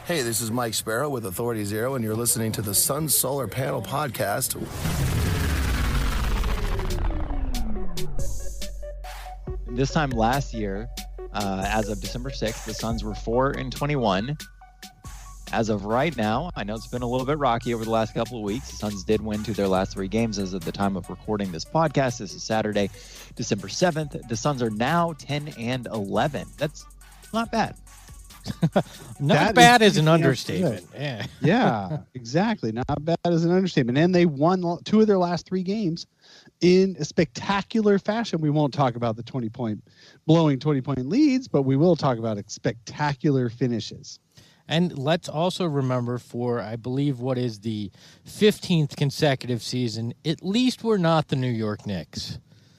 Hey, this is Mike Sparrow with Authority Zero, and you're listening to the Sun Solar Panel Podcast. This time last year, as of December 6th, the Suns were 4-21. As of right now, I know it's been a little bit rocky over the last couple of weeks. The Suns did win 2 of their last 3 games as of the time of recording this podcast. This is Saturday, December 7th. The Suns are now 10-11. That's not bad. Not bad is an understatement. Yeah, exactly. Not bad is an understatement. And they won 2 of their last 3 games in a spectacular fashion. We won't talk about the 20-point leads, but we will talk about spectacular finishes. And let's also remember, for I believe what is the 15th consecutive season, at least we're not the New York Knicks.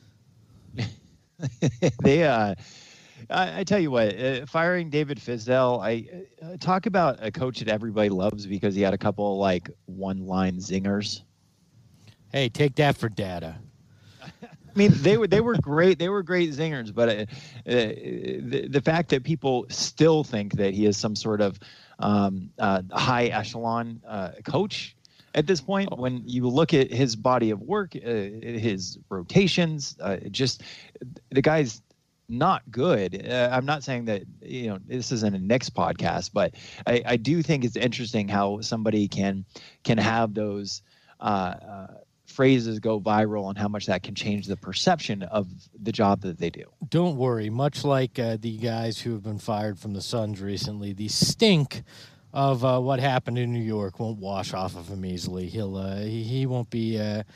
I tell you what, firing David Fizdale, I talk about a coach that everybody loves because he had a couple of, like, one-line zingers. Hey, take that for data. I mean, they were great. They were great zingers, but the fact that people still think that he is some sort of high echelon coach at this point, when you look at his body of work, his rotations, just the guy's not good. I'm not saying that, this isn't a Knicks podcast, but I do think it's interesting how somebody can have those phrases go viral and how much that can change the perception of the job that they do. Don't worry. Much like the guys who have been fired from the Suns recently, the stink of what happened in New York won't wash off of him easily. He won't be head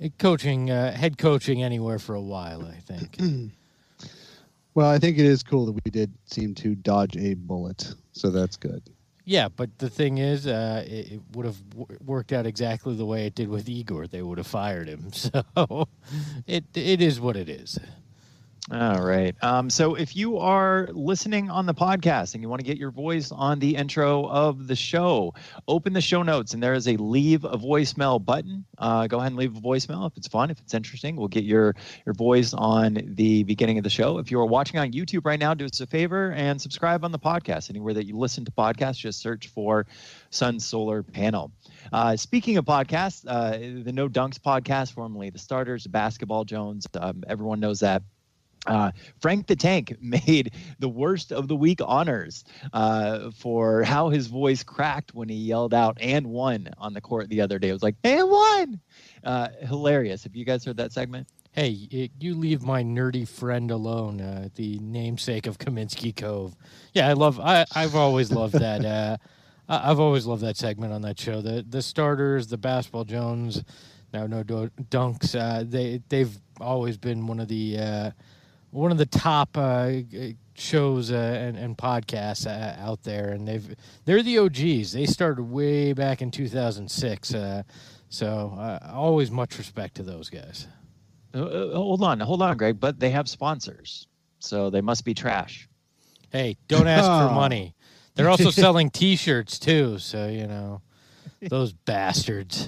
coaching anywhere for a while, I think. Well, I think it is cool that we did seem to dodge a bullet, so that's good. Yeah, but the thing is, it would have worked out exactly the way it did with Igor. They would have fired him. So it is what it is. All right. So if you are listening on the podcast and you want to get your voice on the intro of the show, open the show notes and there is a leave a voicemail button. Go ahead and leave a voicemail if it's fun, if it's interesting. We'll get your voice on the beginning of the show. If you are watching on YouTube right now, do us a favor and subscribe on the podcast. Anywhere that you listen to podcasts, just search for Sun Solar Panel. Speaking of podcasts, the No Dunks podcast, formerly The Starters, Basketball Jones, everyone knows that. Frank the Tank made the worst of the week honors for how his voice cracked when he yelled out "and one" on the court the other day. It was like "and one," hilarious. Have you guys heard that segment? Hey, you leave my nerdy friend alone. The namesake of Kaminsky Cove. Yeah, I've always loved that. I've always loved that segment on that show. The Starters, the Basketball Jones, now No Dunks. They've always been one of the top shows and podcasts out there, and they're the OGs. They started way back in 2006, so always much respect to those guys. Hold on, Greg. But they have sponsors, so they must be trash. Hey, don't ask for money. They're also selling T-shirts too, so those bastards.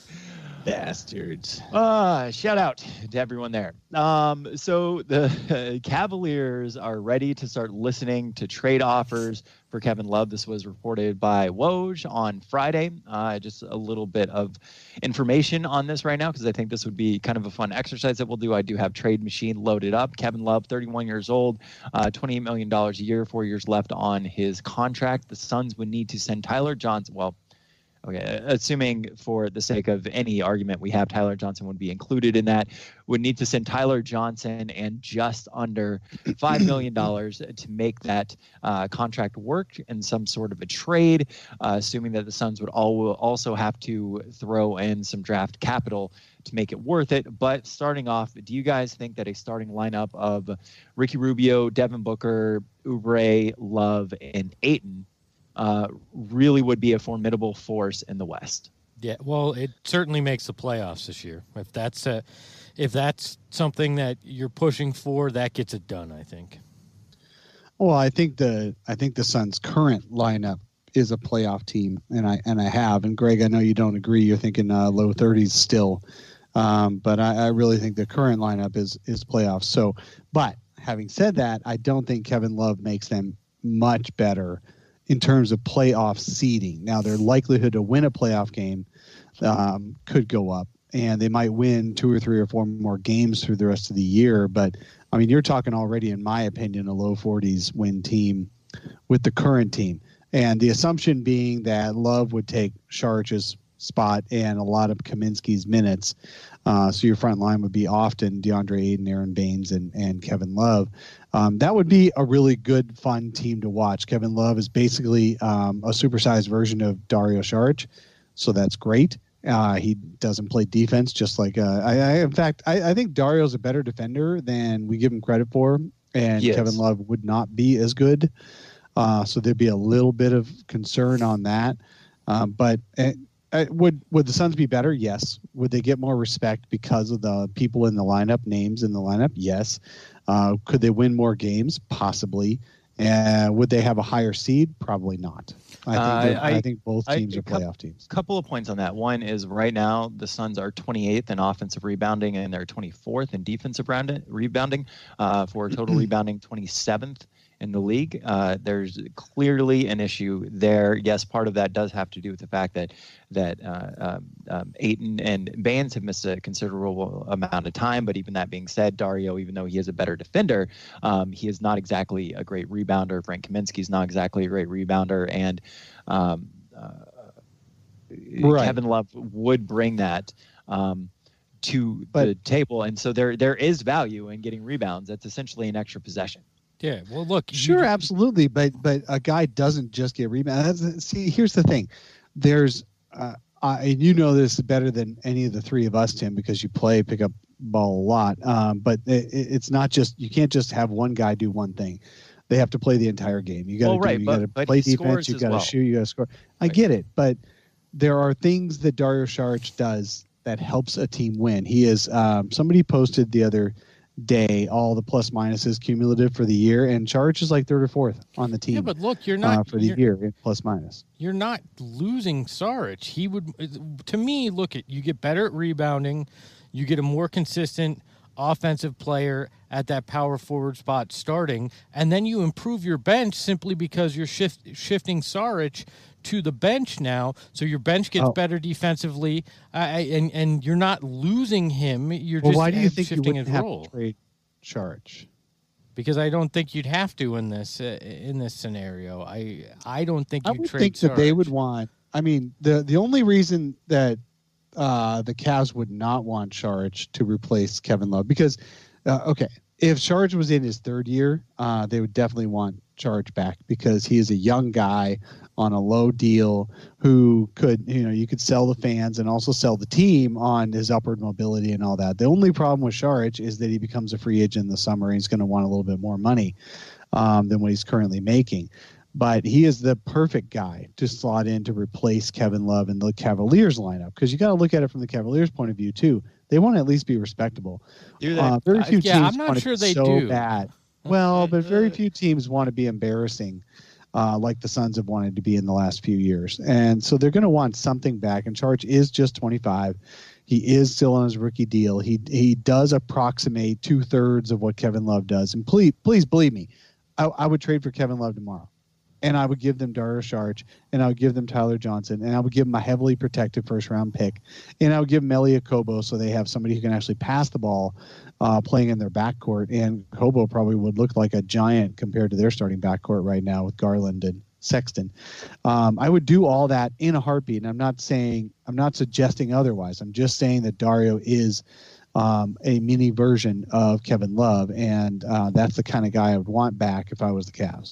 Bastards. Shout out to everyone there. So the Cavaliers are ready to start listening to trade offers for Kevin Love. This was reported by Woj on Friday. Just a little bit of information on this right now because I think this would be kind of a fun exercise that we'll do. I do have Trade Machine loaded up. Kevin Love, 31 years old, $28 million a year, 4 years left on his contract. The Suns would need to send Tyler Johnson. Well, okay, assuming for the sake of any argument we have, Tyler Johnson would be included in that. Would need to send Tyler Johnson and just under $5 million to make that contract work in some sort of a trade, assuming that the Suns would also have to throw in some draft capital to make it worth it. But starting off, do you guys think that a starting lineup of Ricky Rubio, Devin Booker, Oubre, Love, and Ayton really would be a formidable force in the West? Yeah, well, it certainly makes the playoffs this year. If that's something that you're pushing for, that gets it done, I think. Well, I think the Suns' current lineup is a playoff team, and Greg, I know you don't agree. You're thinking low 30s still, but I really think the current lineup is playoffs. So, but having said that, I don't think Kevin Love makes them much better in terms of playoff seeding. Now, their likelihood to win a playoff game could go up, and they might win 2 or 3 or 4 more games through the rest of the year. But, I mean, you're talking already, in my opinion, a low 40s win team with the current team. And the assumption being that Love would take Saric's spot and a lot of Kaminsky's minutes. So your front line would be often DeAndre Ayton, Aaron Baines, and Kevin Love. That would be a really good, fun team to watch. Kevin Love is basically a supersized version of Dario Saric, so that's great. He doesn't play defense, just like in fact, I think Dario's a better defender than we give him credit for, and Yes. Kevin Love would not be as good. So there'd be a little bit of concern on that. But would the Suns be better? Yes. Would they get more respect because of the people in the lineup, names in the lineup? Yes. Could they win more games? Possibly. Would they have a higher seed? Probably not. I think both teams are playoff teams. Couple of points on that. One is right now the Suns are 28th in offensive rebounding and they're 24th in defensive rebounding. For total rebounding, 27th in the league. There's clearly an issue there. Yes, part of that does have to do with the fact that Ayton and Baines have missed a considerable amount of time. But even that being said, Dario, even though he is a better defender, he is not exactly a great rebounder. Frank Kaminsky is not exactly a great rebounder, and Right. Kevin Love would bring that to the table, and so there is value in getting rebounds. That's essentially an extra possession. Yeah. Well, look. Sure, absolutely, but a guy doesn't just get rebounds. See, here's the thing. There's, and you know this better than any of the three of us, Tim, because you pick up ball a lot. But it's not just, you can't just have one guy do one thing. They have to play the entire game. You got to play defense. You got to shoot. You got to score. I get it, but there are things that Dario Saric does that helps a team win. He is somebody posted the other day all the plus minuses cumulative for the year, and Saric is like 3rd or 4th on the team. Yeah, but look, you're not for the year in plus minus. You're not losing Saric. He would, to me, you get better at rebounding, you get a more consistent offensive player at that power forward spot starting, and then you improve your bench simply because you're shifting Saric to the bench now, so your bench gets better defensively, and you're not losing him. You're just why do you think shifting you his have role. to trade Saric? Because I don't think you'd have to in this scenario. I don't think I you would trade think that they Saric. would want. I mean, the only reason that the Cavs would not want Saric to replace Kevin Love, because if Saric was in his 3rd year, they would definitely want Saric back, because he is a young guy on a low deal who could, you could sell the fans and also sell the team on his upward mobility and all that. The only problem with Saric is that he becomes a free agent in the summer, and he's going to want a little bit more money than what he's currently making. But he is the perfect guy to slot in to replace Kevin Love in the Cavaliers lineup, because you got to look at it from the Cavaliers' point of view too. They want to at least be respectable. Very few teams I'm not want sure it they so do. bad. Well, but very few teams want to be embarrassing, like the Suns have wanted to be in the last few years. And so they're going to want something back. And Saric is just 25. He is still on his rookie deal. He does approximate 2/3 of what Kevin Love does. And please believe me, I would trade for Kevin Love tomorrow. And I would give them Dario Saric, and I would give them Tyler Johnson, and I would give them a heavily protected 1st-round pick, and I would give them Elie Kobo, so they have somebody who can actually pass the ball playing in their backcourt. And Kobo probably would look like a giant compared to their starting backcourt right now with Garland and Sexton. I would do all that in a heartbeat, and I'm not suggesting otherwise. I'm just saying that Dario is a mini version of Kevin Love, and that's the kind of guy I would want back if I was the Cavs.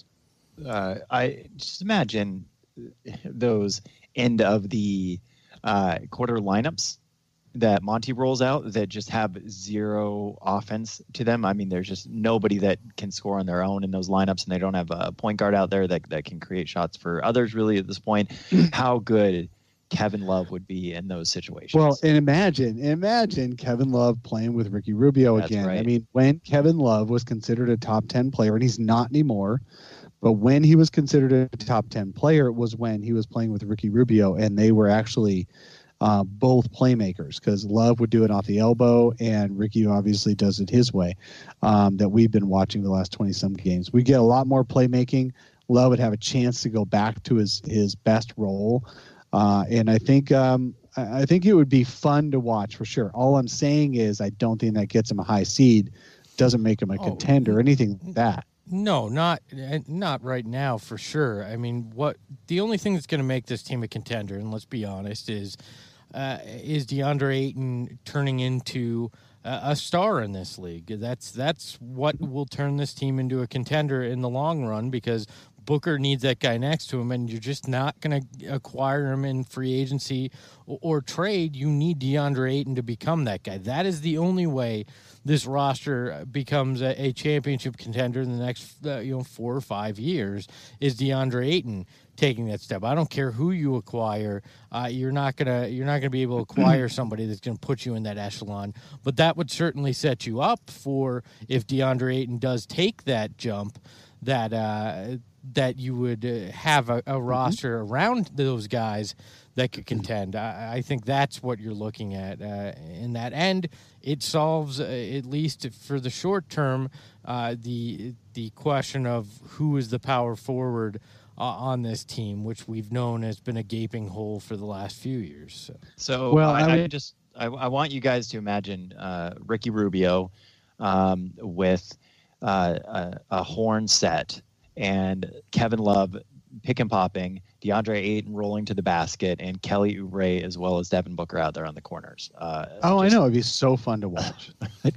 I just imagine those end of the quarter lineups that Monty rolls out that just have zero offense to them. I mean, there's just nobody that can score on their own in those lineups, and they don't have a point guard out there that can create shots for others really at this point. How good Kevin Love would be in those situations. Well, and imagine Kevin Love playing with Ricky Rubio again. Right. I mean, when Kevin Love was considered a top 10 player, and he's not anymore, but when he was considered a top 10 player, it was when he was playing with Ricky Rubio, and they were actually both playmakers, because Love would do it off the elbow, and Ricky obviously does it his way, that we've been watching the last 20-some games. We get a lot more playmaking, Love would have a chance to go back to his best role. And I think it would be fun to watch for sure. All I'm saying is I don't think that gets him a high seed, doesn't make him a contender, anything like that. No, not right now for sure. I mean, the only thing that's going to make this team a contender, and let's be honest, is DeAndre Ayton turning into a star in this league. That's what will turn this team into a contender in the long run, because Booker needs that guy next to him, and you're just not going to acquire him in free agency or trade. You need DeAndre Ayton to become that guy. That is the only way this roster becomes a championship contender in the next 4 or 5 years, is DeAndre Ayton taking that step. I don't care who you acquire. You're not gonna be able to acquire somebody that's gonna put you in that echelon. But that would certainly set you up for, if DeAndre Ayton does take that jump, that you would have a roster around those guys that could contend. I think that's what you're looking at in that end. It solves, at least for the short term, the question of who is the power forward on this team, which we've known has been a gaping hole for the last few years. So well, I want you guys to imagine Ricky Rubio with a horn set, and Kevin Love pick and popping, DeAndre Ayton rolling to the basket, and Kelly Oubre as well as Devin Booker out there on the corners. I know, it'd be so fun to watch.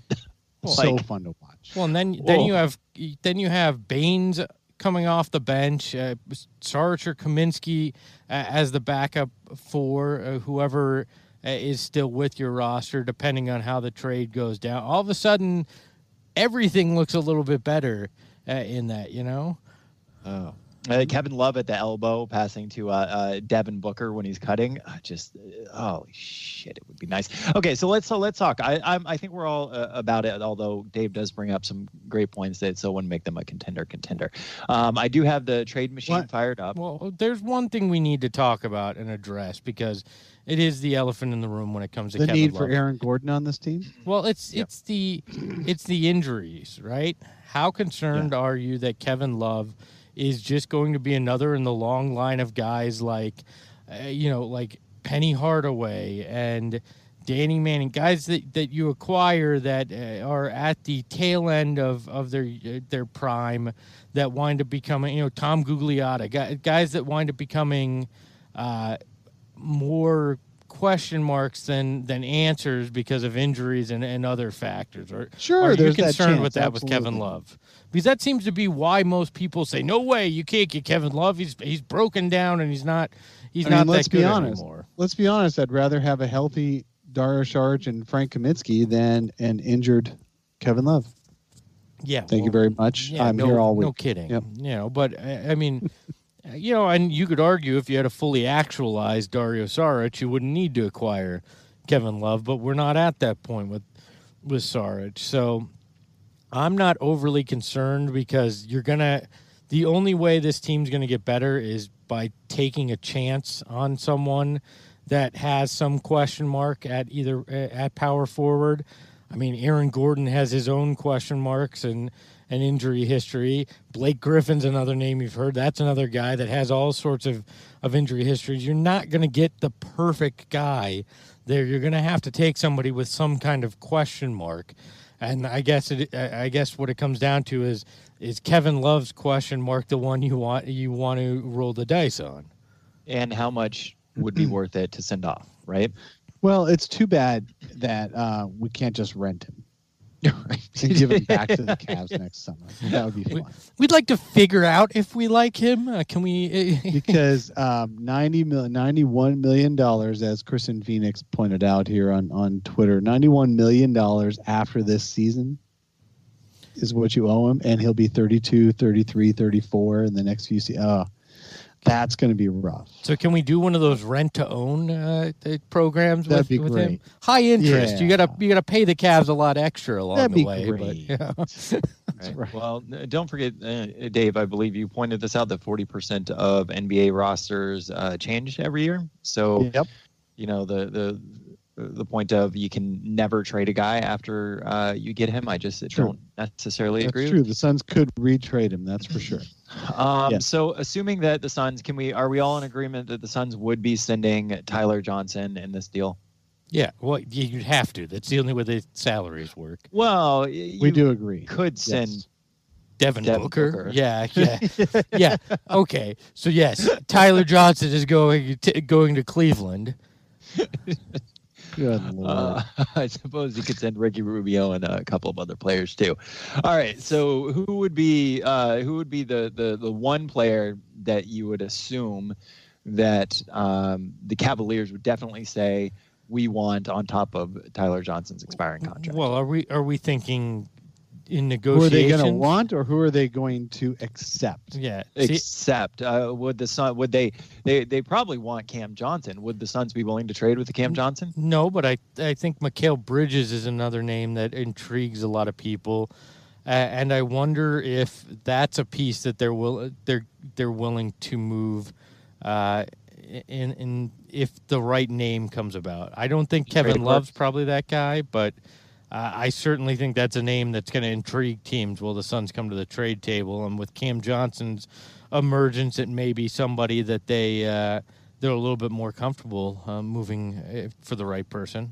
Fun to watch. Well, and then you have Baines coming off the bench, Saric or Kaminsky as the backup for whoever is still with your roster, depending on how the trade goes down. All of a sudden, everything looks a little bit better in that, Oh. Kevin Love at the elbow, passing to Devin Booker when he's cutting. Holy shit, it would be nice. Okay, so let's talk. I think we're all about it. Although Dave does bring up some great points that so wouldn't make them a contender. I do have the trade machine fired up. Well, there's one thing we need to talk about and address, because it is the elephant in the room when it comes to the Kevin need Love. for Aaron Gordon on this team. Well, it's the injuries, right? How concerned are you that Kevin Love is just going to be another in the long line of guys like Penny Hardaway and Danny Manning, guys that you acquire that are at the tail end of their prime, that wind up becoming, Tom Gugliotta, guys that wind up becoming more question marks than answers because of injuries and other factors. Are you concerned with that absolutely. With Kevin Love? Because that seems to be why most people say, no way, you can't get Kevin Love. He's broken down and he's not that good anymore. Let's be honest. I'd rather have a healthy Dario Saric and Frank Kaminsky than an injured Kevin Love. Yeah. Thank you very much. Yeah, I'm here all week. No kidding. Yep. But I mean, and you could argue if you had a fully actualized Dario Saric, you wouldn't need to acquire Kevin Love, but we're not at that point with Saric. So I'm not overly concerned, because the only way this team's going to get better is by taking a chance on someone that has some question mark at power forward. I mean, Aaron Gordon has his own question marks and an injury history. Blake Griffin's another name you've heard. That's another guy that has all sorts of injury histories. You're not going to get the perfect guy there. You're going to have to take somebody with some kind of question mark. And I guess what it comes down to is Kevin Love's question mark the one you want to roll the dice on? And how much would be worth it to send off, right? Well, it's too bad that we can't just rent him. And give him back to the Cavs next summer. That would be fun. We'd like to figure out if we like him. Can we? Because $91 million, as Kristen Phoenix pointed out here on Twitter, $91 million after this season is what you owe him, and he'll be 32, 33, 34 in the next few seasons. That's going to be rough. So can we do one of those rent-to-own programs with great. him? High interest. Yeah. You gotta pay the Cavs a lot extra along That'd the be way. great. But, Right. Well, don't forget, Dave, I believe you pointed this out, that 40% of NBA rosters change every year. So, Yep. the the point of you can never trade a guy after you get him. I just don't necessarily agree. That's true. The Suns could retrade him. That's for sure. So assuming that the Suns, are we all in agreement that the Suns would be sending Tyler Johnson in this deal? Yeah, well, you'd have to. That's the only way the salaries work. Well, we do agree. Could send Devin Booker. Yeah. Okay, so yes, Tyler Johnson is going to Cleveland. Good Lord. I suppose you could send Ricky Rubio and a couple of other players too. All right, so who would be the one player that you would assume that the Cavaliers would definitely say we want on top of Tyler Johnson's expiring contract? Well, are we thinking in Who negotiations? are they going to want, or who are they going to accept? Yeah, Except would the Sun they probably want Cam Johnson? Would the Suns be willing to trade with the Cam Johnson? No, but I think Mikal Bridges is another name that intrigues a lot of people, and I wonder if that's a piece that they're willing to move. In if the right name comes about. I don't think Kevin Love's probably that guy, but I certainly think that's a name that's going to intrigue teams. Will the Suns come to the trade table? And with Cam Johnson's emergence, it may be somebody that they're a little bit more comfortable moving for the right person.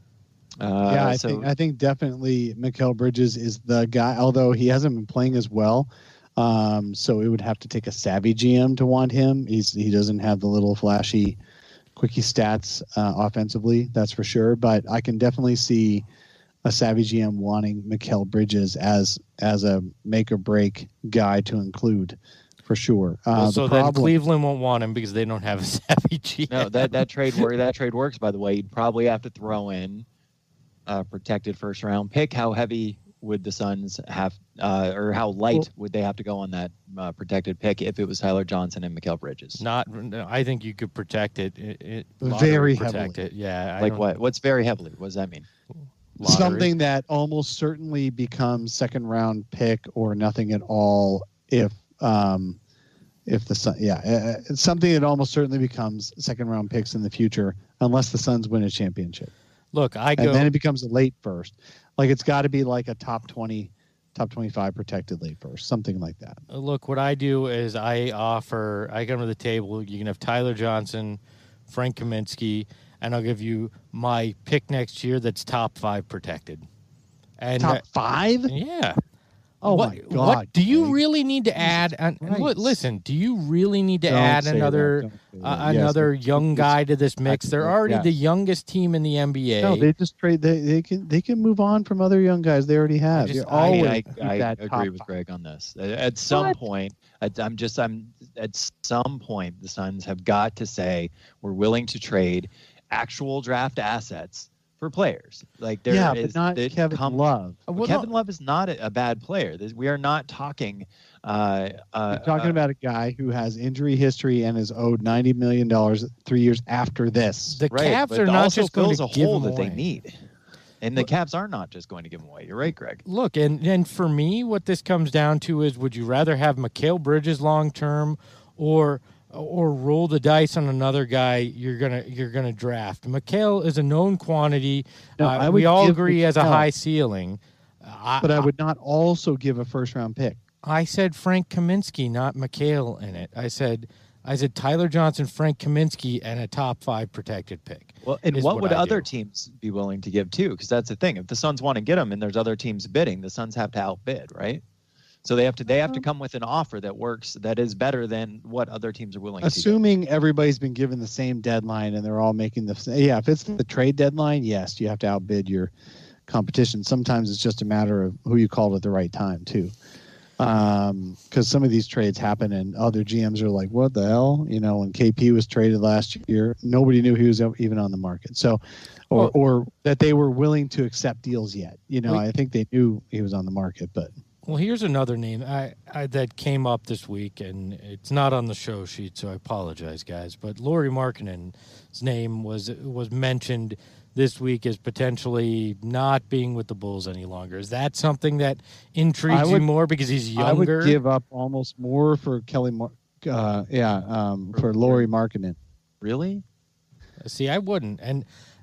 I think definitely Mikal Bridges is the guy, although he hasn't been playing as well. So it would have to take a savvy GM to want him. He doesn't have the little flashy quickie stats offensively, that's for sure. But I can definitely see a savvy GM wanting Mikal Bridges as a make or break guy to include for sure. Then Cleveland won't want him because they don't have a savvy GM. No, that trade works. By the way, you'd probably have to throw in a protected first round pick. How heavy would the Suns have, or how light would they have to go on that protected pick if it was Tyler Johnson and Mikal Bridges? I think you could protect it. Very protect heavily. It. Yeah. Like what? What's very heavily? What does that mean? Lottery. Something that almost certainly becomes second round pick or nothing at all if the Sun, it's something that almost certainly becomes second round picks in the future unless the Suns win a championship. Look, and then it becomes a late first. Like it's got to be like a top 20, top 25 protected late first, something like that. Look, what I do is I come to the table. You can have Tyler Johnson, Frank Kaminsky, and I'll give you my pick next year that's top 5 protected. And top 5? Yeah. Oh my God! What do you really need to add? Listen, do you really need to add another young guy to this mix? They're already the youngest team in the NBA. No, they just trade. They can move on from other young guys they already have. I agree with Greg on this. At some point, at some point, the Suns have got to say we're willing to trade actual draft assets for players. Like but not Kevin Love. Kevin Love is not a bad player. We are not talking. We're talking about a guy who has injury history and is owed $90 million 3 years after this. The Cavs are not just going to give him that away. They need. And the Cavs are not just going to give him away. You're right, Greg. Look, and for me, what this comes down to is: would you rather have Mikal Bridges long term, or roll the dice on another guy you're gonna draft? Mikal is a known quantity. We all agree he has a high ceiling. But I would not also give a first round pick. I said Frank Kaminsky, not Mikal in it. I said Tyler Johnson, Frank Kaminsky, and a top 5 protected pick. Well, and what would other teams be willing to give too? Because that's the thing. If the Suns want to get him and there's other teams bidding, the Suns have to outbid, right? So they have to come with an offer that works, that is better than what other teams are willing to give. Assuming everybody's been given the same deadline and they're all making if it's the trade deadline, yes, you have to outbid your competition. Sometimes it's just a matter of who you called at the right time too. Because some of these trades happen and other GMs are like, what the hell? When KP was traded last year, nobody knew he was even on the market. So, or that they were willing to accept deals yet. I think they knew he was on the market, but. Well, here's another name that came up this week, and it's not on the show sheet, so I apologize, guys. But Lauri Markkanen's name was mentioned this week as potentially not being with the Bulls any longer. Is that something that intrigues you more because he's younger? I would give up almost more for for Lauri Markkanen. Really? See, I wouldn't, and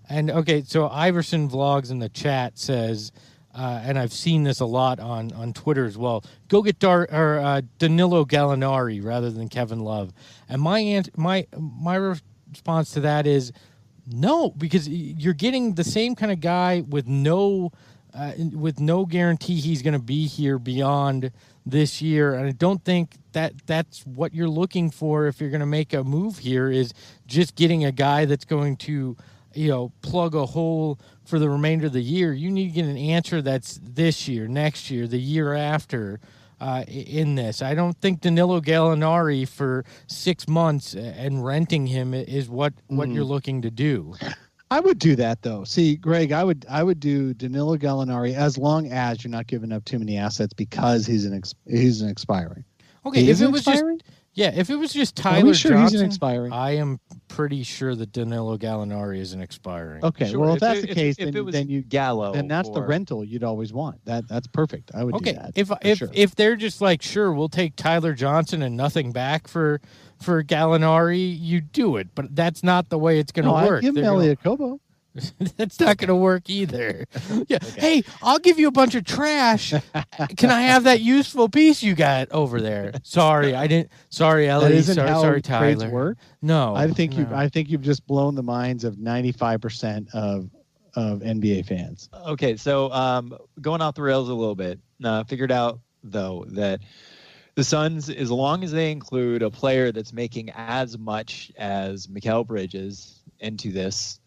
And okay, so Iverson Vlogs in the chat says, and I've seen this a lot on Twitter as well. Go get Danilo Gallinari rather than Kevin Love. And my response to that is no, because you're getting the same kind of guy with no guarantee he's going to be here beyond this year. And I don't think that's what you're looking for if you're going to make a move here, is just getting a guy that's going to, plug a hole for the remainder of the year. You need to get an answer that's this year, next year, the year after in this. I don't think Danilo Gallinari for 6 months and renting him is what you're looking to do. I would do that though. See, Greg, I would do Danilo Gallinari as long as you're not giving up too many assets because he's an expiring. Okay, if it was just Tyler sure Johnson, he's an expiring? I am pretty sure that Danilo Gallinari is an expiring. Okay, Sure. well if that's the case, if it was then you Gallo, then that's the rental you'd always want. That's perfect. I would do that. If they're just like, sure, we'll take Tyler Johnson and nothing back for Gallinari, you do it. But that's not the way it's going to work. Give him Elliot Kobo. That's not going to work either. Yeah. Okay. Hey, I'll give you a bunch of trash. Can I have that useful piece you got over there? Sorry, I didn't. Sorry, Ellie. That isn't how sorry, trades Tyler. work. No, I think you've just blown the minds of 95% of NBA fans. Okay, so going off the rails a little bit, figured out though that the Suns, as long as they include a player that's making as much as Mikal Bridges into this,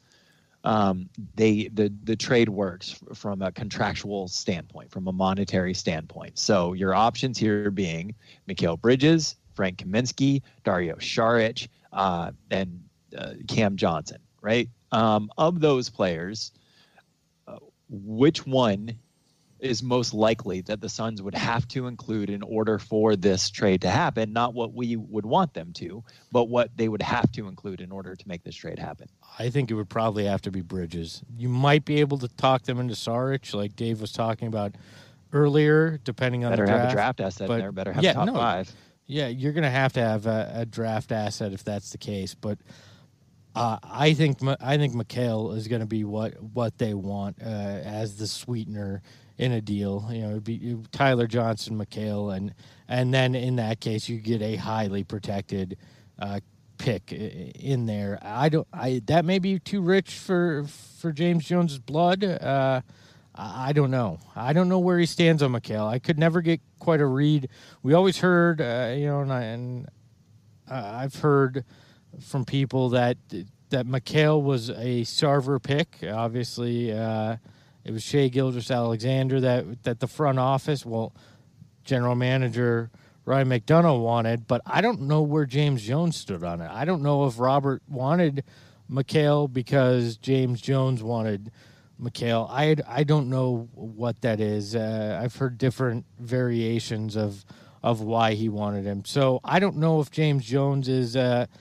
the trade works from a contractual standpoint, from a monetary standpoint. So your options here being Mikal Bridges, Frank Kaminsky, Dario Saric, and Cam Johnson, right? Of those players, which one is most likely that the Suns would have to include in order for this trade to happen? Not what we would want them to, but what they would have to include in order to make this trade happen. I think it would probably have to be Bridges. You might be able to talk them into Saric, like Dave was talking about earlier, depending on better the draft. Have a draft asset in there. Better have top five. Yeah, you're going to have a draft asset if that's the case. But I think Mikal is going to be what they want as the sweetener in a deal. It'd be Tyler Johnson, Mikal, and then in that case you get a highly protected pick in there. That may be too rich for James Jones's blood. I don't know. I don't know where he stands on Mikal. I could never get quite a read. We always heard, and I've heard from people that Mikal was a Sarver pick. Obviously, it was Shai Gilgeous-Alexander that the front office, general manager Ryan McDonough wanted, but I don't know where James Jones stood on it. I don't know if Robert wanted Mikal because James Jones wanted Mikal. I don't know what that is. I've heard different variations of why he wanted him. So I don't know if James Jones is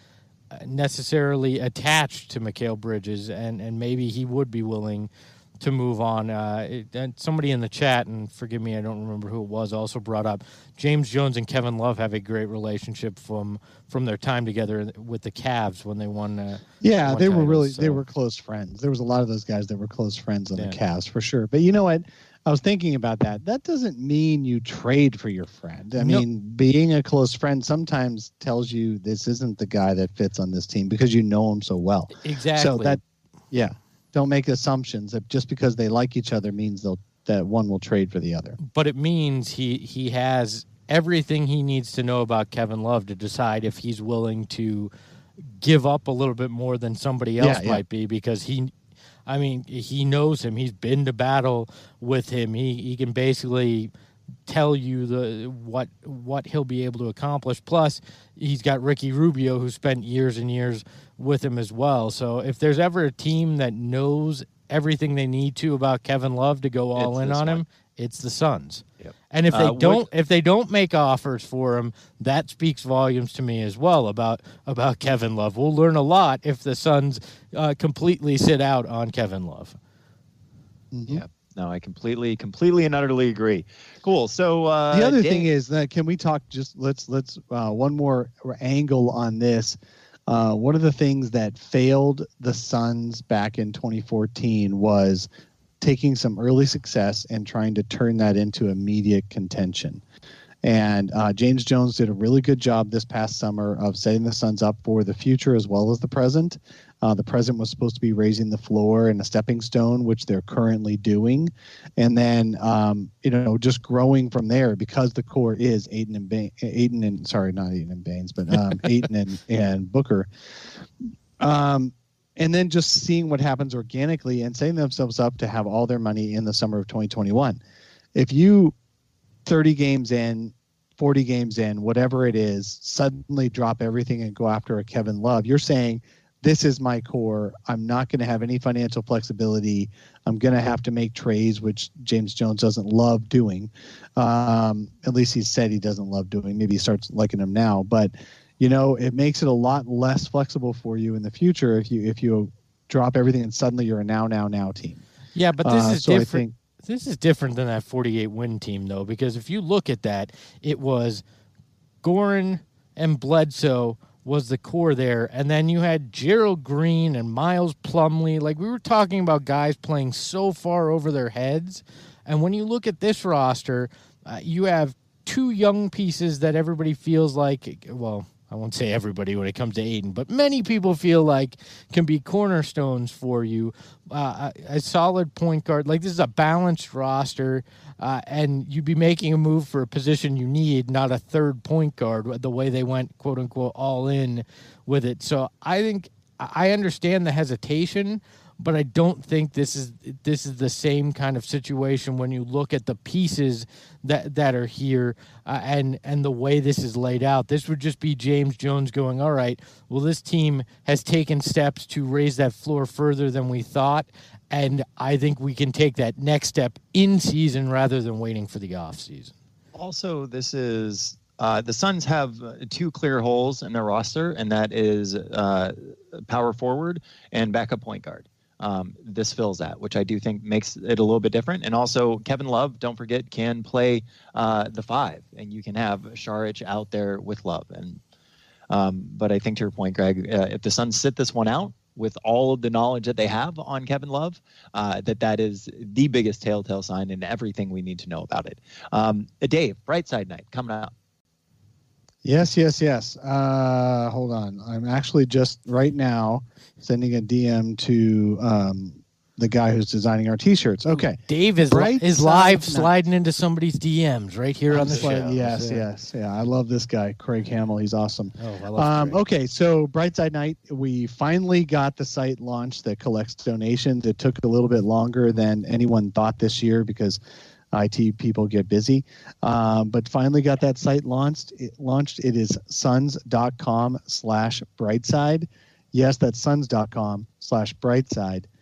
necessarily attached to Mikal Bridges, and maybe he would be willing to move on. And somebody in the chat, and forgive me, I don't remember who it was, also brought up James Jones and Kevin Love have a great relationship from their time together with the Cavs when they won. They were they were close friends. There was a lot of those guys that were close friends on the Cavs for sure. But you know what? I was thinking about that. That doesn't mean you trade for your friend. I mean, being a close friend sometimes tells you this isn't the guy that fits on this team because you know him so well. Exactly. So don't make assumptions that just because they like each other means that one will trade for the other. But it means he has everything he needs to know about Kevin Love to decide if he's willing to give up a little bit more than somebody else might be, because he knows him. He's been to battle with him. He can basically tell you what he'll be able to accomplish. Plus, he's got Ricky Rubio, who spent years and years with him as well. So if there's ever a team that knows everything they need to about Kevin Love to go all in on him, it's the Suns. Yep. And if they don't make offers for him, that speaks volumes to me as well about Kevin Love. We'll learn a lot if the Suns completely sit out on Kevin Love. Mm-hmm. Yeah. No, I completely and utterly agree. Cool. So the other thing is that can we talk? Just let's one more angle on this. One of the things that failed the Suns back in 2014 was taking some early success and trying to turn that into immediate contention. And James Jones did a really good job this past summer of setting the Suns up for the future as well as the present. The present was supposed to be raising the floor and a stepping stone, which they're currently doing. And then, just growing from there because the core is Ayton and Booker. And then just seeing what happens organically and setting themselves up to have all their money in the summer of 2021. If you 30 games in, 40 games in, whatever it is, suddenly drop everything and go after a Kevin Love, you're saying, this is my core. I'm not going to have any financial flexibility. I'm going to have to make trades, which James Jones doesn't love doing. At least he said he doesn't love doing. Maybe he starts liking them now. But, it makes it a lot less flexible for you in the future if you drop everything and suddenly you're a now team. Yeah, but this is different. This is different than that 48-win team, though, because if you look at that, it was Goran and Bledsoe was the core there, and then you had Gerald Green and Miles Plumlee. Like, we were talking about guys playing so far over their heads, and when you look at this roster, you have two young pieces that everybody feels like, well, I won't say everybody when it comes to Ayton, but many people feel like can be cornerstones for you. A solid point guard. Like, this is a balanced roster, and you'd be making a move for a position you need, not a third point guard, the way they went, quote unquote, all in with it. So I think I understand the hesitation, but I don't think this is the same kind of situation when you look at the pieces that are here and the way this is laid out. This would just be James Jones going, all right, well, this team has taken steps to raise that floor further than we thought, and I think we can take that next step in season rather than waiting for the off season. Also, this is the Suns have two clear holes in their roster, and that is power forward and backup point guard. This fills that, which I do think makes it a little bit different. And also, Kevin Love, don't forget, can play the 5, and you can have Šarić out there with Love. And but I think to your point, Greg, if the Suns sit this one out with all of the knowledge that they have on Kevin Love, that is the biggest telltale sign in everything we need to know about it. Dave, Brightside Night coming up. Yes. Hold on. I'm actually just right now sending a DM to the guy who's designing our T-shirts. Okay. Dave is live sliding into somebody's DMs right here on the show. Yes. Yeah, I love this guy, Craig Hamill. He's awesome. Oh, I love Craig. Okay, so Brightside Night, we finally got the site launched that collects donations. It took a little bit longer than anyone thought this year because IT people get busy, but finally got that site launched. It is suns.com/brightside. Yes, that's suns.com/brightside.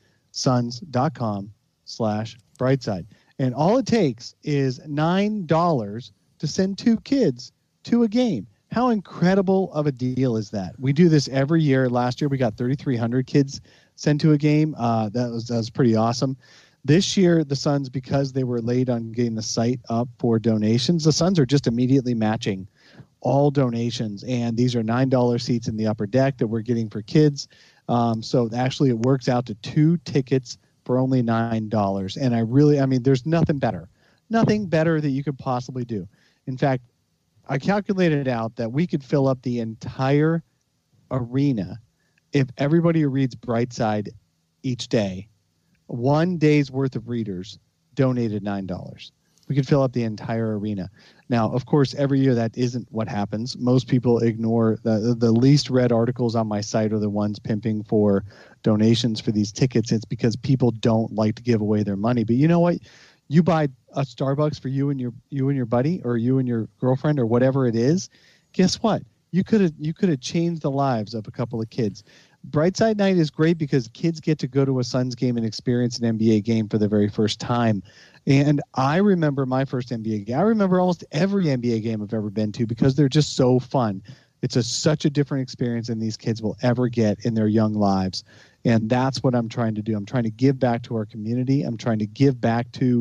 Suns.com/brightside. And all it takes is $9 to send 2 kids to a game. How incredible of a deal is that? We do this every year. Last year we got 3,300 kids sent to a game. That was pretty awesome. This year, the Suns, because they were late on getting the site up for donations, the Suns are just immediately matching all donations. And these are $9 seats in the upper deck that we're getting for kids. So actually, it works out to 2 tickets for only $9. And there's nothing better that you could possibly do. In fact, I calculated out that we could fill up the entire arena if everybody who reads Brightside each day, 1 day's worth of readers donated $9. We could fill up the entire arena. Now, of course, every year that isn't what happens. Most people ignore the least read articles on my site are the ones pimping for donations for these tickets. It's because people don't like to give away their money. But you know what? You buy a Starbucks for you and your buddy, or you and your girlfriend, or whatever it is. Guess what? You could have changed the lives of a couple of kids. Brightside Night is great because kids get to go to a Suns game and experience an NBA game for the very first time. And I remember my first NBA game. I remember almost every NBA game I've ever been to because they're just so fun. It's such a different experience than these kids will ever get in their young lives. And that's what I'm trying to do. I'm trying to give back to our community. I'm trying to give back to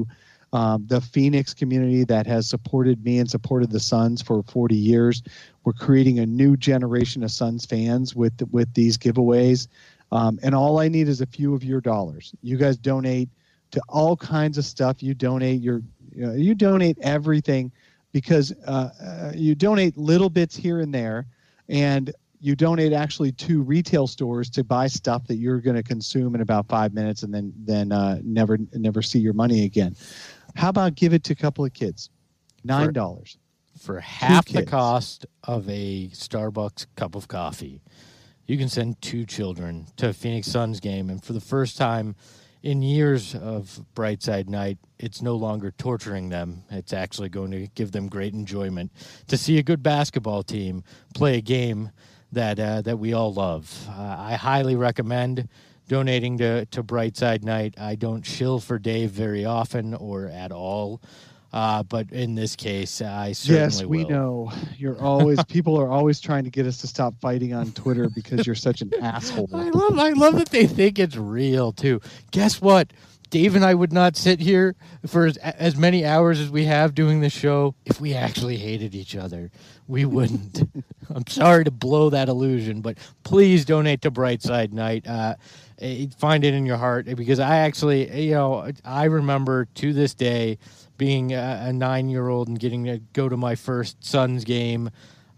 the Phoenix community that has supported me and supported the Suns for 40 years. We're creating a new generation of Suns fans with these giveaways. And all I need is a few of your dollars. You guys donate to all kinds of stuff. You donate you donate everything, because you donate little bits here and there, and you donate actually to retail stores to buy stuff that you're going to consume in about 5 minutes and then never see your money again. How about give it to a couple of kids? $9. For half the cost of a Starbucks cup of coffee, you can send 2 children to a Phoenix Suns game. And for the first time in years of Brightside Night, it's no longer torturing them. It's actually going to give them great enjoyment to see a good basketball team play a game that we all love. I highly recommend donating to Brightside Night. I don't shill for Dave very often or at all. But in this case, I certainly will. Yes, we know. People are always trying to get us to stop fighting on Twitter because you're such an asshole. I love that they think it's real too. Guess what? Dave and I would not sit here for as many hours as we have doing the show if we actually hated each other. We wouldn't. I'm sorry to blow that illusion, but please donate to Brightside Night. Find it in your heart, because I actually, I remember to this day being a 9-year-old and getting to go to my first Suns game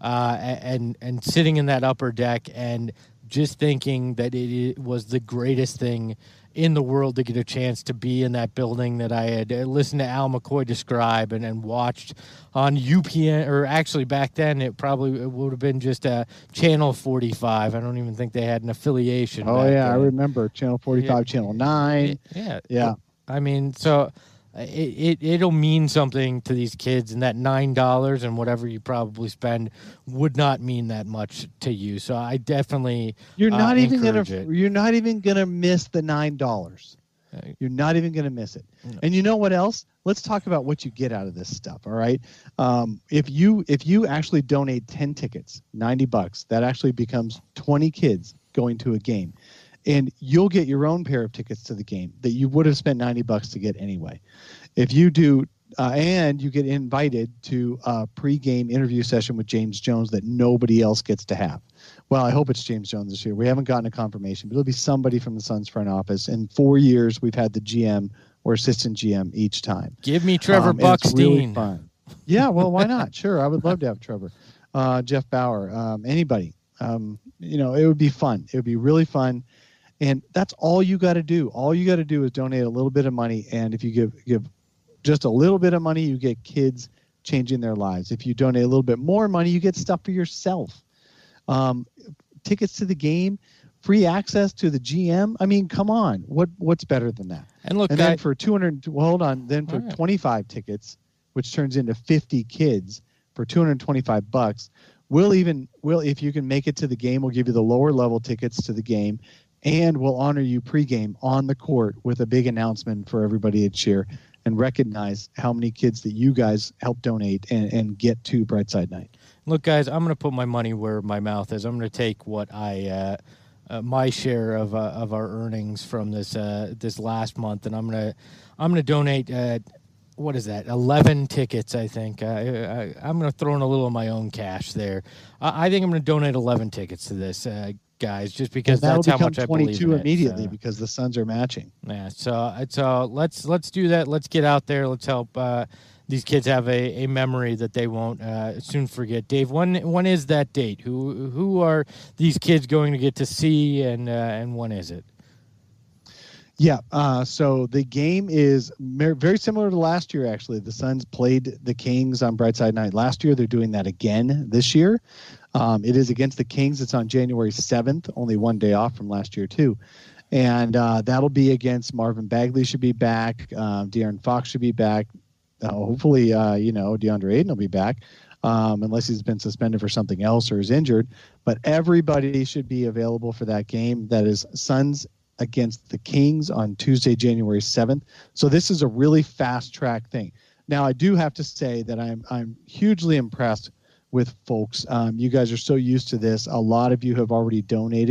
and sitting in that upper deck and just thinking that it was the greatest thing in the world to get a chance to be in that building that I had listened to Al McCoy describe and watched on UPN, or actually back then it would have been just Channel 45. I don't even think they had an affiliation. Oh, yeah, I remember Channel 45, Channel 9. Yeah. I mean, so it'll mean something to these kids, and that $9 and whatever you probably spend would not mean that much to you. So I definitely you're not even gonna miss the $9. You're not even gonna miss it. No. And you know what else? Let's talk about what you get out of this stuff. All right, if you actually donate 10 tickets, $90, that actually becomes 20 kids going to a game. And you'll get your own pair of tickets to the game that you would have spent $90 to get anyway. If you do, and you get invited to a pre-game interview session with James Jones that nobody else gets to have. Well, I hope it's James Jones this year. We haven't gotten a confirmation, but it'll be somebody from the Suns front office. In 4 years, we've had the GM or assistant GM each time. Give me Trevor Buckstein. It's really fun. Yeah, well, why not? Sure, I would love to have Trevor, Jeff Bauer, anybody. It would be fun. It would be really fun. And that's all you got to do. All you got to do is donate a little bit of money. And if you give just a little bit of money, you get kids changing their lives. If you donate a little bit more money, you get stuff for yourself. Tickets to the game, free access to the GM. I mean, come on. What's better than that? And look, then for 25 tickets, which turns into 50 kids for $225, we'll if you can make it to the game, we'll give you the lower level tickets to the game. And we'll honor you pregame on the court with a big announcement for everybody to cheer and recognize how many kids that you guys help donate and get to Brightside Night. Look, guys, I'm going to put my money where my mouth is. I'm going to take what my share of our earnings from this last month, and I'm going to donate. What is that? 11 tickets, I think. I'm going to throw in a little of my own cash there. I think I'm going to donate 11 tickets to this. Guys, just because that's how much I believe in it. 22 immediately because the Suns are matching. Yeah, so let's do that. Let's get out there. Let's help these kids have a memory that they won't soon forget. Dave, when is that date? Who are these kids going to get to see, and when is it? Yeah, so the game is very similar to last year, actually. The Suns played the Kings on Brightside Night last year. They're doing that again this year. It is against the Kings. It's on January 7th, only one day off from last year, too. And that'll be against Marvin Bagley should be back. De'Aaron Fox should be back. Hopefully, DeAndre Ayton will be back, unless he's been suspended for something else or is injured. But everybody should be available for that game. That is Suns against the Kings on Tuesday, January 7th. So this is a really fast-track thing. Now, I do have to say that I'm hugely impressed with folks. You guys are so used to this. A lot of you have already donated.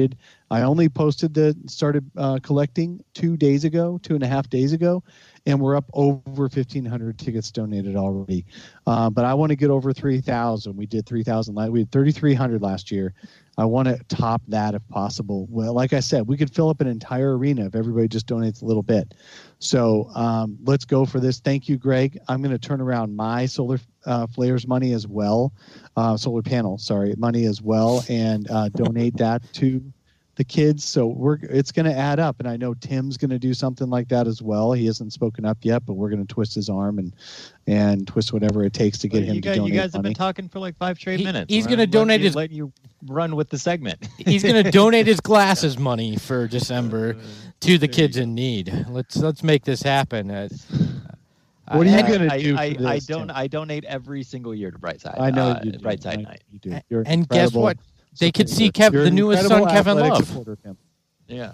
I only started collecting 2.5 days ago, and we're up over 1,500 tickets donated already. But I want to get over 3,000. We did 3,000. We had 3,300 last year. I want to top that if possible. Well, like I said, we could fill up an entire arena if everybody just donates a little bit. So let's go for this. Thank you, Greg. I'm going to turn around my solar flares money as well, solar panel, money as well, and donate that to the kids. So it's going to add up, and I know Tim's going to do something like that as well. He hasn't spoken up yet, but we're going to twist his arm and twist whatever it takes to get him to donate. You guys have been talking for like 5 straight minutes. He's going to donate let you run with the segment. He's going to donate his glasses money for December to the kids in need. Let's make this happen. What are you going to do for this, I donate every single year to Brightside. I know you do. Brightside Night. You do. You're and guess what? They could see You're the newest son, Kevin Love. Yeah.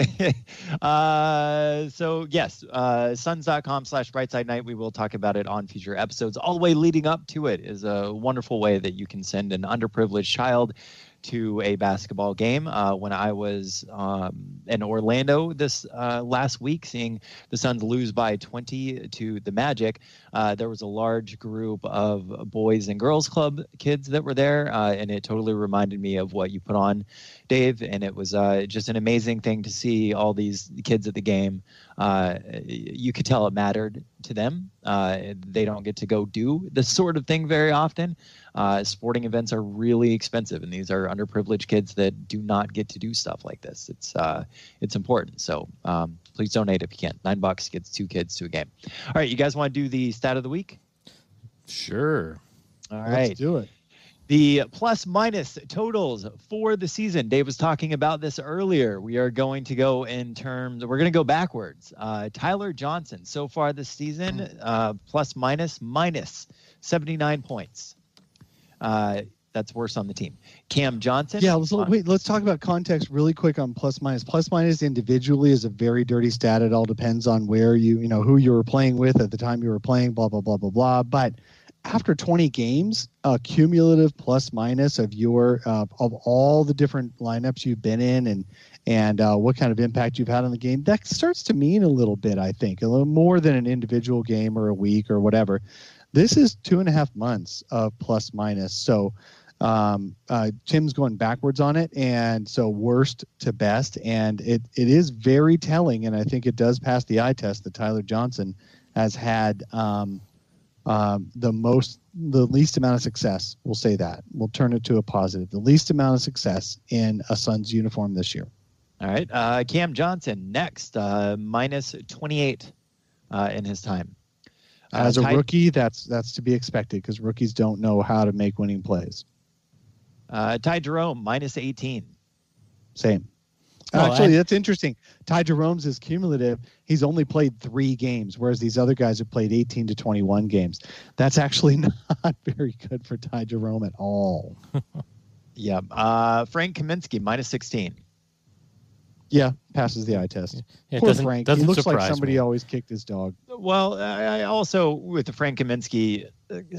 So yes, suns.com/brightside night. We will talk about it on future episodes. All the way leading up to it is a wonderful way that you can send an underprivileged child to a basketball game. When I was in Orlando this last week, seeing the Suns lose by 20 to the Magic, there was a large group of boys and girls club kids that were there, and it totally reminded me of what you put on, Dave, and it was just an amazing thing to see all these kids at the game. You could tell it mattered to them. They don't get to go do this sort of thing very often. Sporting events are really expensive, and these are underprivileged kids that do not get to do stuff like this. It's important. So please donate if you can. $9 gets 2 kids to a game. All right, you guys want to do the stat of the week? Sure. All right. Let's do it. The plus minus totals for the season. Dave was talking about this earlier. We are going to go we're going to go backwards. Tyler Johnson, so far this season, plus minus 79 points. That's worse on the team. Cam Johnson. Yeah, let's talk about context really quick on plus minus. Plus minus individually is a very dirty stat. It all depends on where who you were playing with at the time you were playing, blah, blah, blah, blah, blah. But after 20 games, cumulative plus minus of of all the different lineups you've been in and what kind of impact you've had on the game, that starts to mean a little bit, I think, a little more than an individual game or a week or whatever. This is 2.5 months of plus minus. So Tim's going backwards on it, and so worst to best. And it is very telling, and I think it does pass the eye test that Tyler Johnson has had the least amount of success. We'll say that. We'll turn it to a positive. The least amount of success in a Suns uniform this year. All right. Cam Johnson next, minus 28 in his time. As a rookie, that's to be expected because rookies don't know how to make winning plays. Ty Jerome, minus 18. Same. Actually, that's interesting. Ty Jerome's is cumulative. He's only played 3 games, whereas these other guys have played 18 to 21 games. That's actually not very good for Ty Jerome at all. Yeah. Frank Kaminsky, minus 16. Yeah, passes the eye test. Yeah, Poor Frank. He looks like somebody me. always kicked his dog. Well, I also, with the Frank Kaminsky,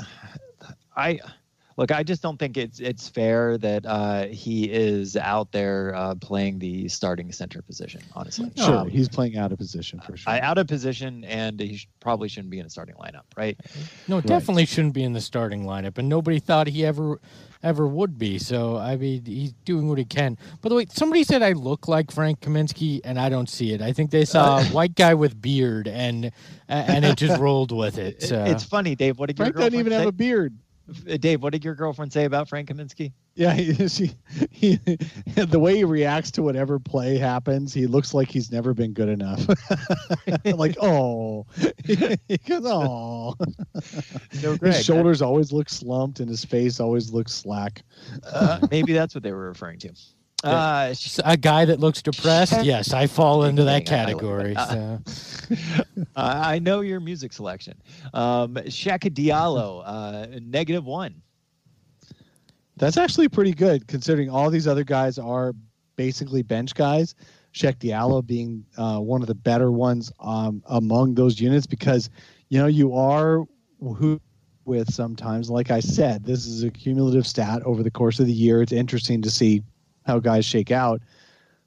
I just don't think it's fair that he is out there playing the starting center position, honestly. Sure, he's playing out of position for sure. Out of position, and he probably shouldn't be in a starting lineup, right? No, definitely shouldn't be in the starting lineup, and nobody thought he ever would be. So, I mean, he's doing what he can. By the way, somebody said I look like Frank Kaminsky, and I don't see it. I think they saw a white guy with beard, and it just rolled with it. So. It's funny, Dave. What did Frank doesn't even have a beard. Dave, what did your girlfriend say about Frank Kaminsky? Yeah, he the way he reacts to whatever play happens, he looks like he's never been good enough. Like, oh, he goes, oh. So, Greg, his shoulders always look slumped, and his face always looks slack. Maybe that's what they were referring to. A guy that looks depressed? Yes, I fall into that category. So. I know your music selection. Shaka Diallo, -1. That's actually pretty good considering all these other guys are basically bench guys. Shaq Diallo being one of the better ones among those units because, you are who with sometimes. Like I said, this is a cumulative stat over the course of the year. It's interesting to see how guys shake out.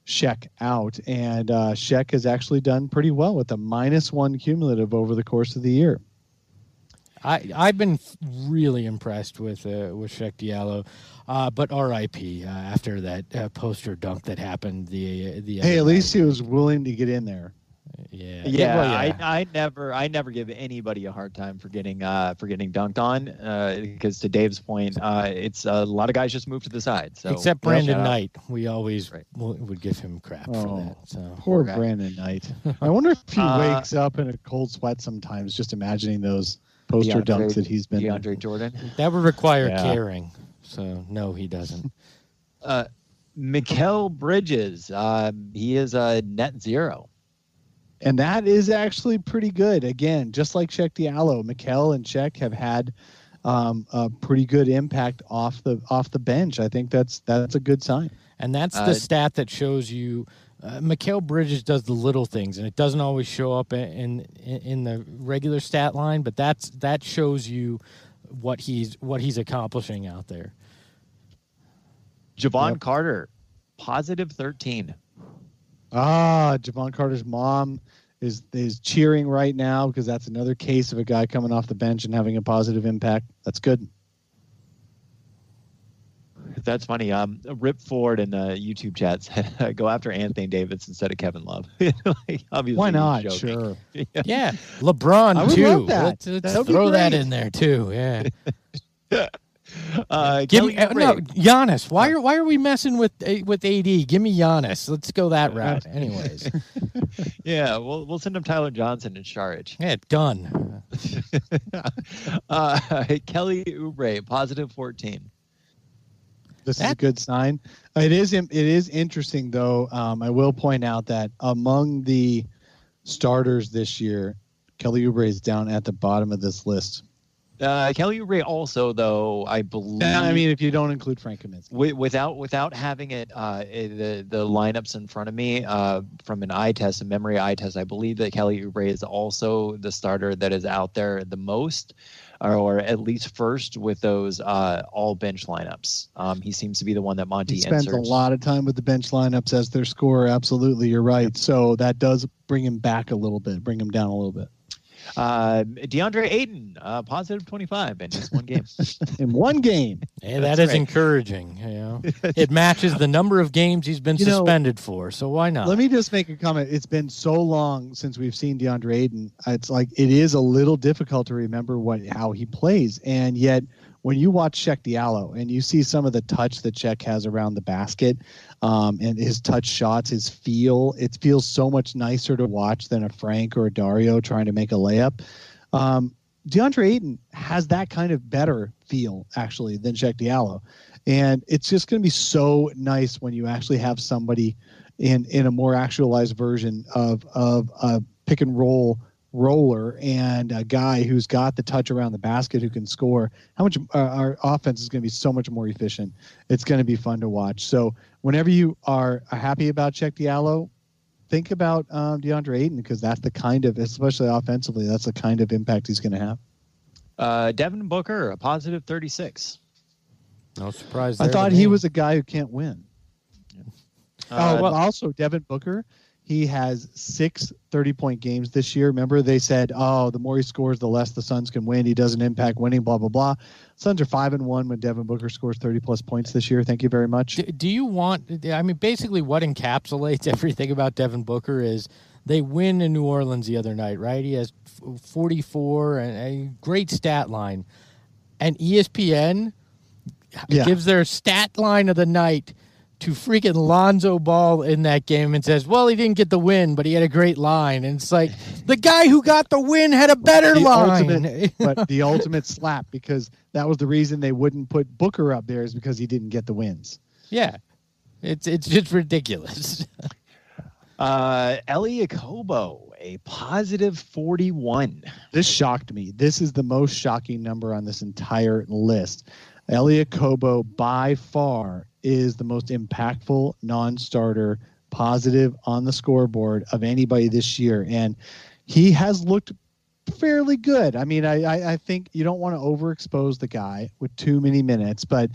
Sheck out, and Sheck has actually done pretty well with a -1 cumulative over the course of the year. I've been really impressed with Sheck Diallo, but RIP after that poster dunk that happened the Hey, at other least night. he was willing to get in there. Yeah, well, yeah. I never give anybody a hard time for getting dunked on because to Dave's point, it's a lot of guys just move to the side. So Except Brandon shout out. Knight, we always Right. would give him crap for that. So Poor guy. Brandon Knight. I wonder if he wakes up in a cold sweat sometimes, just imagining those poster dunks that he's been. DeAndre Jordan. that would require Yeah. caring. So no, he doesn't. Mikal Bridges, he is a net zero. And that is actually pretty good. Again, just like Sheck Diallo, Mikal and Sheck have had a pretty good impact off the bench. I think that's a good sign. And that's the stat that shows you Mikal Bridges does the little things, and it doesn't always show up in the regular stat line, but that shows you what he's accomplishing out there. Javon Yep. Carter, positive 13. Javon Carter's mom is cheering right now because that's another case of a guy coming off the bench and having a positive impact. That's good. That's funny. Rip Ford in the YouTube chat said, go after Anthony Davis instead of Kevin Love. Like, obviously, Why he's not? joking. Sure. Yeah, LeBron I would too. love that. Let's That would be throw that great. in there too. Yeah. Give me No, Giannis. Why are we messing with AD? Give me Giannis. Let's go that route. Anyways, Yeah, we'll send him Tyler Johnson and Sharich. yeah, done. Kelly Oubre, positive 14. This is a good sign. It is interesting though. I will point out that among the starters this year, Kelly Oubre is down at the bottom of this list. Kelly Oubre also, though, I believe. I mean, if you don't include Frank Kaminsky. Without having the lineups in front of me from an eye test, a memory eye test, I believe that Kelly Oubre is also the starter that is out there the most, or at least first with those all bench lineups. He seems to be the one that Monty He spends inserts. a lot of time with the bench lineups as their scorer. Absolutely, you're right. So that does bring him back a little bit, bring him down a little bit. DeAndre Ayton, positive 25 in just one game. In one game. Hey, That's that is right. encouraging. You know, it matches the number of games he's been suspended for. So why not? Let me just make a comment. It's been so long since we've seen DeAndre Ayton. It's like it is a little difficult to remember how he plays, and yet when you watch Sheck Diallo and you see some of the touch that Sheck has around the basket, and his touch shots, it feels so much nicer to watch than a Frank or a Dario trying to make a layup. DeAndre Ayton has that kind of better feel actually than Sheck Diallo, and it's just going to be so nice when you actually have somebody in a more actualized version of a pick and roll roller and a guy who's got the touch around the basket who can score. How much our offense is going to be so much more efficient. It's going to be fun to watch. So whenever you are happy about Sheck Diallo, think about DeAndre Ayton, because that's the kind of, especially offensively, that's the kind of impact he's going to have. Devin Booker, a positive 36. No surprise. I there thought to he me. was a guy who can't win. Also Devin Booker, he has 6 30-point games this year. Remember they said, the more he scores, the less the Suns can win. He doesn't impact winning, blah, blah, blah. Suns are 5-1 when Devin Booker scores 30-plus points this year. Thank you very much. Do you want? I mean, basically, what encapsulates everything about Devin Booker is they win in New Orleans the other night, right? He has 44 and a great stat line, and ESPN gives their stat line of the night to freaking Lonzo Ball in that game and says, well, he didn't get the win, but he had a great line. And it's like, the guy who got the win had a better line. But the ultimate slap, because that was the reason they wouldn't put Booker up there, is because he didn't get the wins. Yeah. It's just ridiculous. Elie Okobo, a positive 41. This shocked me. This is the most shocking number on this entire list. Elie Okobo, by far, is the most impactful non-starter positive on the scoreboard of anybody this year. And he has looked fairly good. I mean, I think you don't want to overexpose the guy with too many minutes, but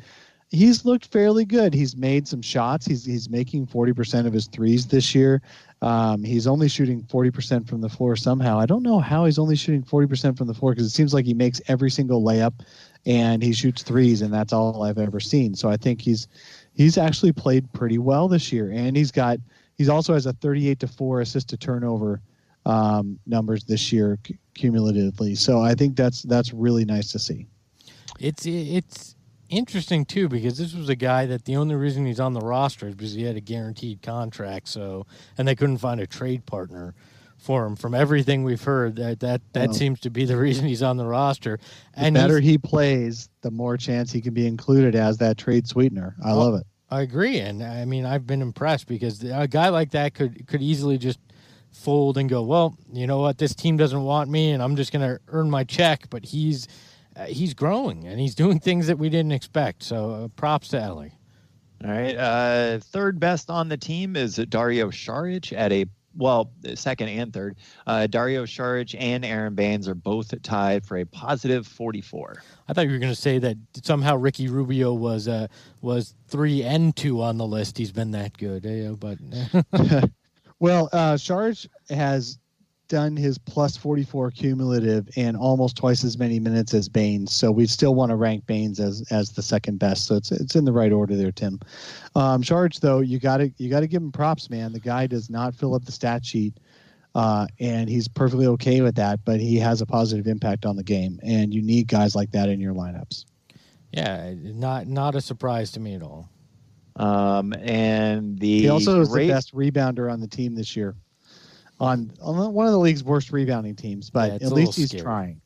He's looked fairly good. He's made some shots. He's making 40% of his threes this year. He's only shooting 40% from the floor somehow. I don't know how he's only shooting 40% from the floor, because it seems like he makes every single layup and he shoots threes, and that's all I've ever seen. So I think he's actually played pretty well this year, and he's also has a 38-4 assist to turnover numbers this year cumulatively. So I think that's really nice to see. It's interesting too, because this was a guy that the only reason he's on the roster is because he had a guaranteed contract. And they couldn't find a trade partner for him. From everything we've heard, that seems to be the reason he's on the roster. And the better he plays, the more chance he can be included as that trade sweetener. I love it. I agree, and I mean, I've been impressed, because a guy like that could easily just fold and go, well, you know what, this team doesn't want me, and I'm just going to earn my check. But he's growing, and he's doing things that we didn't expect. So props to Ellie. All right, third best on the team is Dario Saric at second and third. Dario Saric and Aaron Baines are both tied for a positive 44. I thought you were going to say that somehow Ricky Rubio was 3 and 2 on the list. He's been that good, but well, Saric has done his plus 44 cumulative and almost twice as many minutes as Baines. So we still want to rank Baines as the second best. So it's in the right order there, Tim. Saric, though, you got to give him props, man. The guy does not fill up the stat sheet, and he's perfectly okay with that. But he has a positive impact on the game, and you need guys like that in your lineups. Yeah, not a surprise to me at all. And he also is the best rebounder on the team this year. On one of the league's worst rebounding teams, but at least he's trying.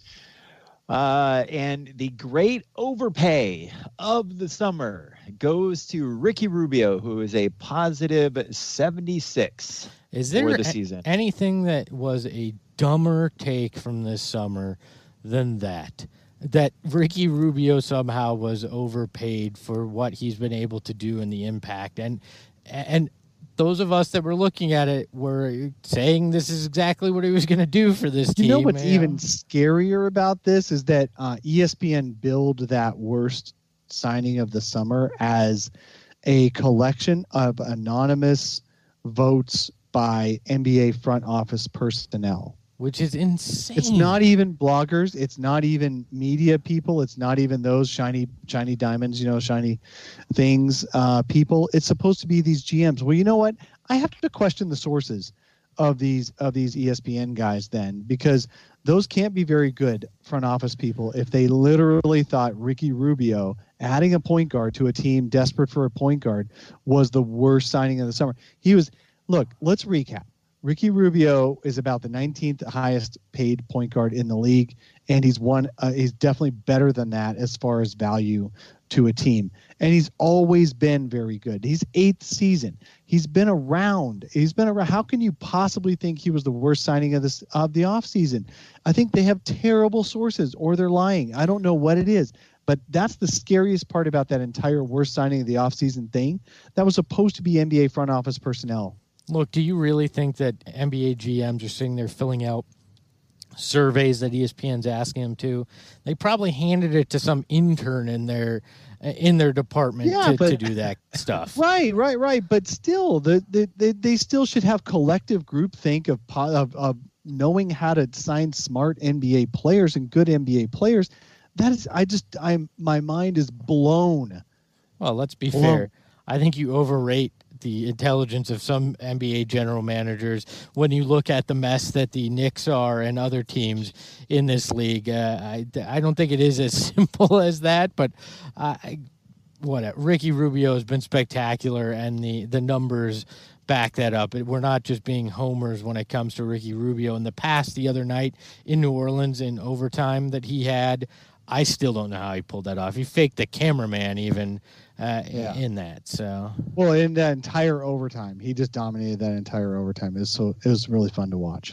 And the great overpay of the summer goes to Ricky Rubio, who is a positive 76 is there for the season. Anything that was a dumber take from this summer than that Ricky Rubio somehow was overpaid for what he's been able to do and the impact? And those of us that were looking at it were saying this is exactly what he was going to do for this team. You know what's even scarier about this is that ESPN billed that worst signing of the summer as a collection of anonymous votes by NBA front office personnel. Which is insane. It's not even bloggers. It's not even media people. It's not even those shiny diamonds, shiny things people. It's supposed to be these GMs. Well, you know what? I have to question the sources of these ESPN guys then, because those can't be very good front office people if they literally thought Ricky Rubio adding a point guard to a team desperate for a point guard was the worst signing of the summer. Look, let's recap. Ricky Rubio is about the 19th highest paid point guard in the league, and he's definitely better than that as far as value to a team. And he's always been very good. He's 8th season. He's been around. How can you possibly think he was the worst signing of the offseason? I think they have terrible sources, or they're lying. I don't know what it is. But that's the scariest part about that entire worst signing of the offseason thing. That was supposed to be NBA front office personnel. Look, do you really think that NBA GMs are sitting there filling out surveys that ESPN's asking them to? They probably handed it to some intern in their department to do that stuff. Right. But still, they still should have collective groupthink of knowing how to sign smart NBA players and good NBA players. My mind is blown. Well, let's be fair. I think you overrate the intelligence of some NBA general managers when you look at the mess that the Knicks are and other teams in this league. I don't think it is as simple as that, but whatever. Ricky Rubio has been spectacular, and the numbers back that up. We're not just being homers when it comes to Ricky Rubio. In the past, the other night in New Orleans in overtime that he had, I still don't know how he pulled that off. He faked the cameraman even in that. So, well, in that entire overtime, he just dominated that entire overtime. It was really fun to watch.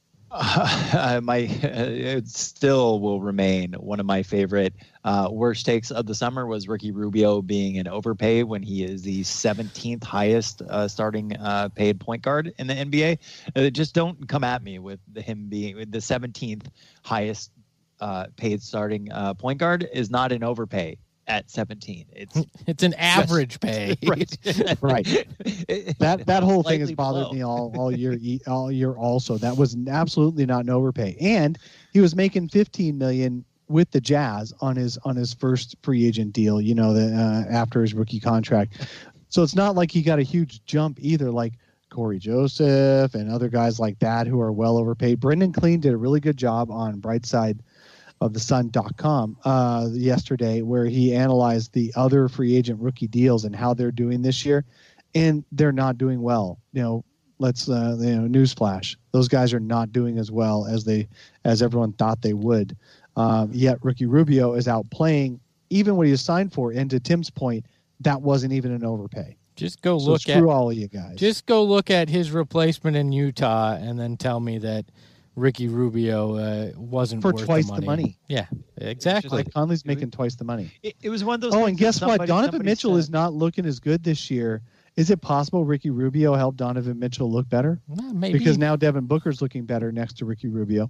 It still will remain one of my favorite worst takes of the summer was Ricky Rubio being an overpay when he is the 17th highest starting paid point guard in the NBA. Just don't come at me with him being the 17th highest paid starting point guard is not an overpay. at 17. It's an average pay. Right. Right. That whole thing has Slightly bothered below. me all year also. That was absolutely not an overpay. And he was making $15 million with the Jazz on his first free agent deal, after his rookie contract. So it's not like he got a huge jump either, like Corey Joseph and other guys like that who are well overpaid. Brendan Clean did a really good job on Brightside of the Sun.com yesterday, where he analyzed the other free agent rookie deals and how they're doing this year, and they're not doing well. Newsflash, those guys are not doing as well as everyone thought they would. Yet Ricky Rubio is out playing even what he was signed for. And to Tim's point, that wasn't even an overpay. Just go So look screw at all of you guys. Just go look at his replacement in Utah, and then tell me that Ricky Rubio wasn't for worth twice the the money. money. Yeah, exactly. Mike Conley's making twice the money. It was one of those. Oh, things and that guess what? Donovan somebody Mitchell said- is not looking as good this year. Is it possible Ricky Rubio helped Donovan Mitchell look better? Maybe Because now Devin Booker's looking better next to Ricky Rubio.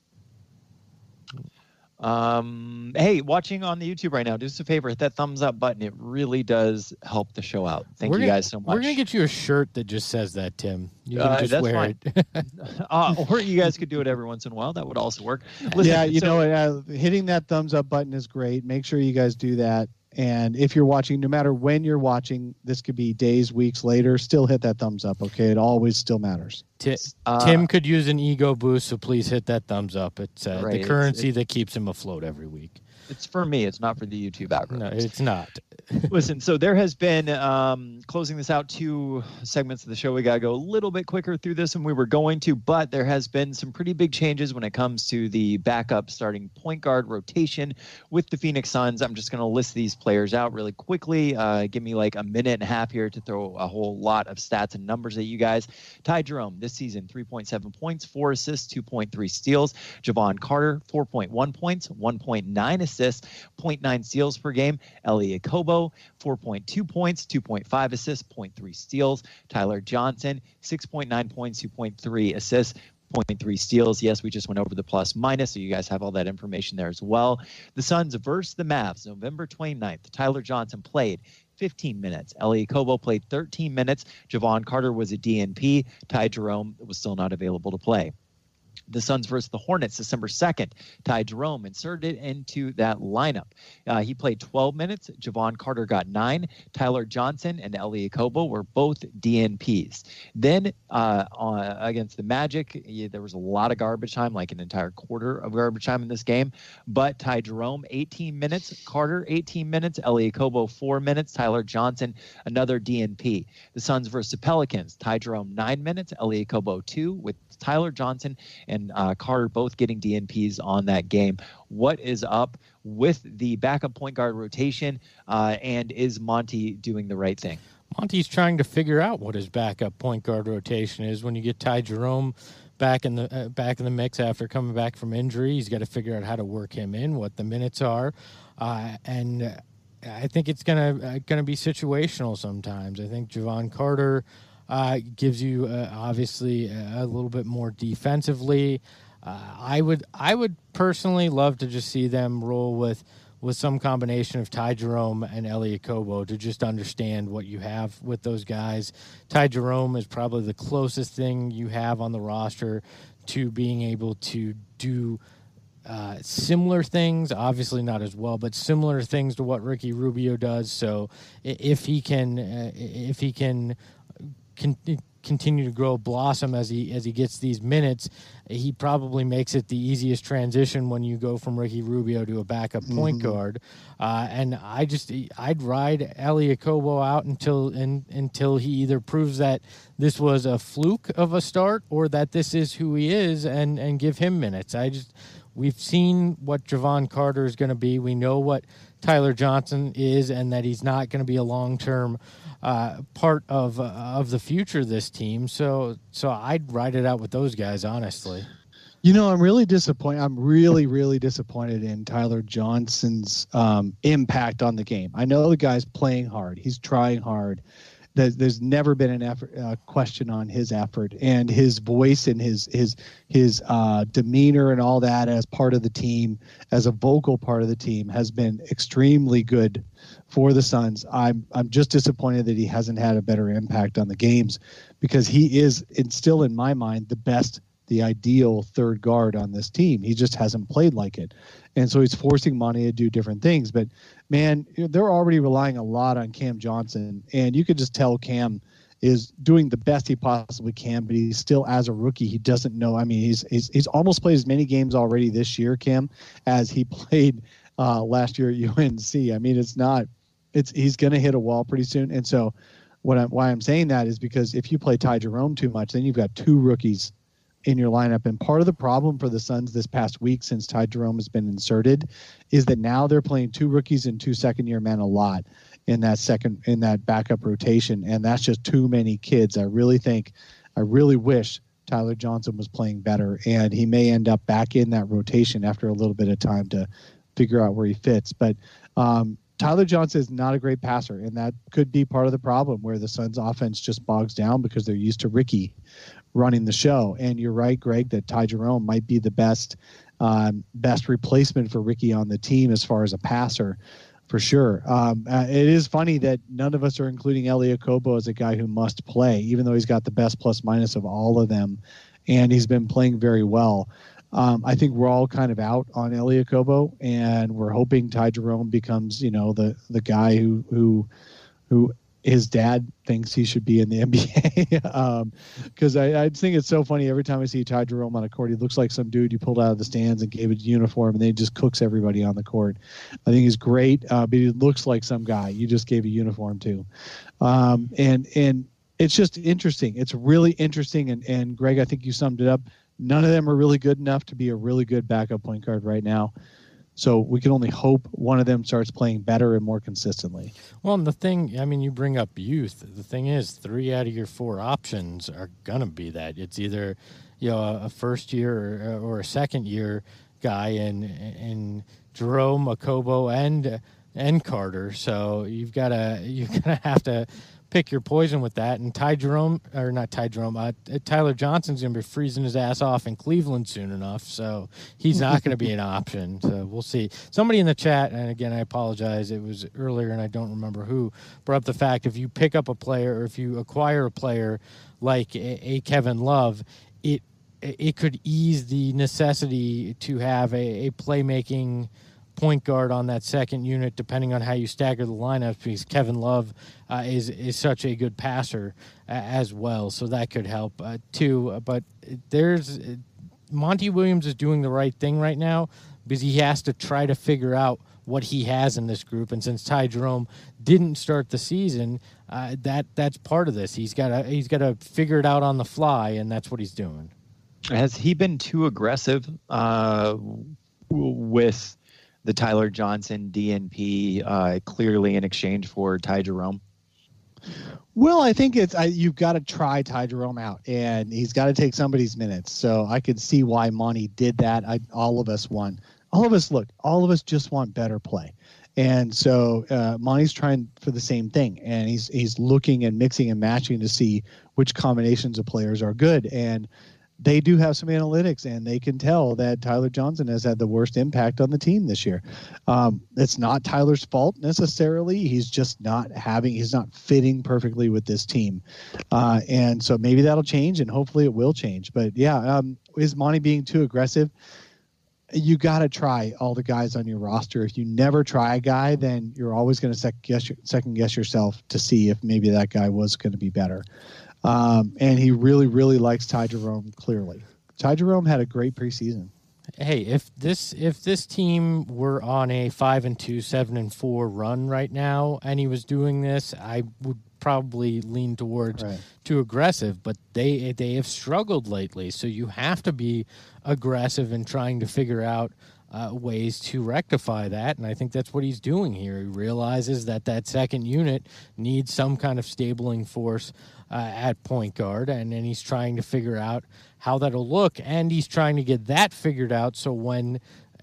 Hey, watching on the YouTube right now, do us a favor, hit that thumbs up button. It really does help the show out. Thank you guys so much. We're gonna get you a shirt that just says that, Tim. You can just that's wear fine. it. Or you guys could do it every once in a while. That would also work. Listen, Hitting that thumbs up button is great. Make sure you guys do that. And if you're watching, no matter when you're watching, this could be days, weeks later, still hit that thumbs up, okay? It always still matters. Tim could use an ego boost, so please hit that thumbs up. It's Right, the currency that keeps him afloat every week. It's for me. It's not for the YouTube algorithm. No, it's not. Listen, so there has been, closing this out, 2 segments of the show. We got to go a little bit quicker through this than we were going to, but there has been some pretty big changes when it comes to the backup starting point guard rotation with the Phoenix Suns. I'm just going to list these players out really quickly. Give me like a minute and a half here to throw a whole lot of stats and numbers at you guys. Ty Jerome, this season, 3.7 points, 4 assists, 2.3 steals. Javon Carter, 4.1 points, 1.9 assists, 0.9 steals per game. Elie Okobo, 4.2 points, 2.5 assists, 0.3 steals. Tyler Johnson, 6.9 points, 2.3 assists, 0.3 steals. Yes, we just went over the plus minus, so you guys have all that information there as well. The Suns versus the Mavs, November 29th. Tyler Johnson played 15 minutes. Elie Okobo played 13 minutes. Javon Carter was a DNP. Ty Jerome was still not available to play. The Suns versus the Hornets, December 2nd. Ty Jerome inserted into that lineup. He played 12 minutes. Javon Carter got 9. Tyler Johnson and Elie Okobo were both DNPs. Then against the Magic, there was a lot of garbage time, like an entire quarter of garbage time in this game. But Ty Jerome, 18 minutes. Carter, 18 minutes. Elie Okobo, 4 minutes. Tyler Johnson, another DNP. The Suns versus the Pelicans. Ty Jerome, 9 minutes. Elie Okobo, 2, with Tyler Johnson and Carter both getting DNPs on that game. What is up with the backup point guard rotation, and is Monty doing the right thing? Monty's trying to figure out what his backup point guard rotation is. When you get Ty Jerome back in the mix after coming back from injury, he's got to figure out how to work him in, what the minutes are, and I think it's gonna be situational sometimes. I think Javon Carter gives you obviously a little bit more defensively. I would personally love to just see them roll with some combination of Ty Jerome and Elie Okobo to just understand what you have with those guys. Ty Jerome is probably the closest thing you have on the roster to being able to do similar things, obviously not as well, but similar things to what Ricky Rubio does. So if he can continue to grow, blossom as he gets these minutes, he probably makes it the easiest transition when you go from Ricky Rubio to a backup point guard. And I'd ride Elie Okobo out until he either proves that this was a fluke of a start or that this is who he is, and give him minutes. We've seen what Javon Carter is going to be. We know what Tyler Johnson is, and that he's not going to be a long-term part of the future of this team. So I'd ride it out with those guys, honestly. I'm really disappointed. I'm really, really disappointed in Tyler Johnson's impact on the game. I know the guy's playing hard. He's trying hard. there's never been an question on his effort and his voice and his demeanor and all that as part of the team, as a vocal part of the team, has been extremely good for the Suns. I'm just disappointed that he hasn't had a better impact on the games, because he is, it's still in my mind, the ideal third guard on this team. He just hasn't played like it. And so he's forcing Monty to do different things. But, man, they're already relying a lot on Cam Johnson. And you could just tell Cam is doing the best he possibly can, but he's still, as a rookie, he doesn't know. I mean, he's almost played as many games already this year, Cam, as he played last year at UNC. I mean, he's going to hit a wall pretty soon. And so why I'm saying that is because if you play Ty Jerome too much, then you've got two rookies in your lineup. And part of the problem for the Suns this past week, since Ty Jerome has been inserted, is that now they're playing two rookies and two second-year men a lot in that backup rotation. And that's just too many kids. I really wish Tyler Johnson was playing better, and he may end up back in that rotation after a little bit of time to figure out where he fits. But Tyler Johnson is not a great passer, and that could be part of the problem where the Suns offense just bogs down because they're used to Ricky running the show. And you're right, Greg, that Ty Jerome might be the best replacement for Ricky on the team as far as a passer, for sure. It is funny that none of us are including Elie Okobo as a guy who must play, even though he's got the best plus minus of all of them, and he's been playing very well. I think we're all kind of out on Elie Okobo, and we're hoping Ty Jerome becomes, the guy who his dad thinks he should be in the NBA. Because I think it's so funny every time I see Ty Jerome on a court, he looks like some dude you pulled out of the stands and gave a uniform, and then he just cooks everybody on the court. I think he's great, but he looks like some guy you just gave a uniform to. And it's just interesting. It's really interesting. And Greg, I think you summed it up. None of them are really good enough to be a really good backup point guard right now. So we can only hope one of them starts playing better and more consistently. Well, and the thing, I mean, you bring up youth. The thing is, 3 out of your 4 options are going to be that. It's either, a first year or a second year guy in Jerome, Okobo, and Carter. So you're gonna have to pick your poison with that. And Tyler Johnson's going to be freezing his ass off in Cleveland soon enough, so he's not going to be an option. So we'll see. Somebody in the chat, and again, I apologize, it was earlier and I don't remember who, brought up the fact if you pick up a player or if you acquire a player like a Kevin Love, it could ease the necessity to have a playmaking point guard on that second unit, depending on how you stagger the lineups, because Kevin Love is such a good passer as well, so that could help too. But Monty Williams is doing the right thing right now because he has to try to figure out what he has in this group, and since Ty Jerome didn't start the season, that's part of this. He's got to figure it out on the fly, and that's what he's doing. Has he been too aggressive with the Tyler Johnson DNP clearly in exchange for Ty Jerome? Well, I think you've got to try Ty Jerome out, and he's got to take somebody's minutes. So I could see why Monty did that. All of us just want better play. And so Monty's trying for the same thing, and he's looking and mixing and matching to see which combinations of players are good. And they do have some analytics, and they can tell that Tyler Johnson has had the worst impact on the team this year. It's not Tyler's fault necessarily. He's just he's not fitting perfectly with this team. And so maybe that'll change, and hopefully it will change. But yeah, is Monty being too aggressive? You got to try all the guys on your roster. If you never try a guy, then you're always going to second guess yourself to see if maybe that guy was going to be better. And he really, really likes Ty Jerome, clearly. Ty Jerome had a great preseason. Hey, if this team were on a 5-2, 7-4 run right now, and he was doing this, I would probably lean towards too aggressive. But they have struggled lately, so you have to be aggressive in trying to figure out ways to rectify that, and I think that's what he's doing here. He realizes that second unit needs some kind of stabling force at point guard, and then he's trying to figure out how that'll look, and he's trying to get that figured out so when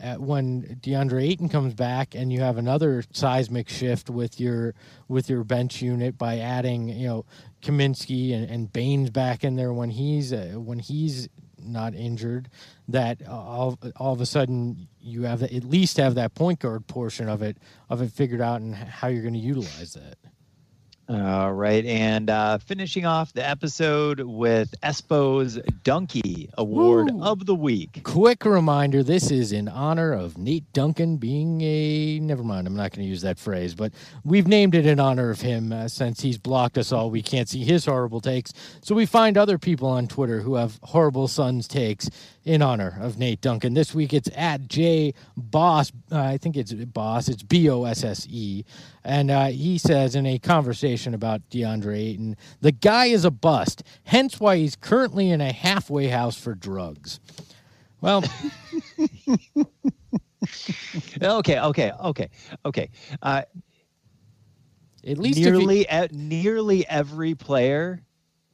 when DeAndre Ayton comes back and you have another seismic shift with your bench unit by adding, Kaminsky and Baines back in there when he's not injured, that all of a sudden you have at least have that point guard portion of it figured out and how you're going to utilize that. All right, and finishing off the episode with Espo's Donkey Award of the Week. Quick reminder, this is in honor of Nate Duncan being never mind, I'm not going to use that phrase, but we've named it in honor of him since he's blocked us all. We can't see his horrible takes, so we find other people on Twitter who have horrible Suns takes in honor of Nate Duncan. This week it's at J Boss, I think it's Boss, it's BOSSE, and he says in a conversation about DeAndre Ayton, the guy is a bust, hence why he's currently in a halfway house for drugs. Well, okay. At least nearly every player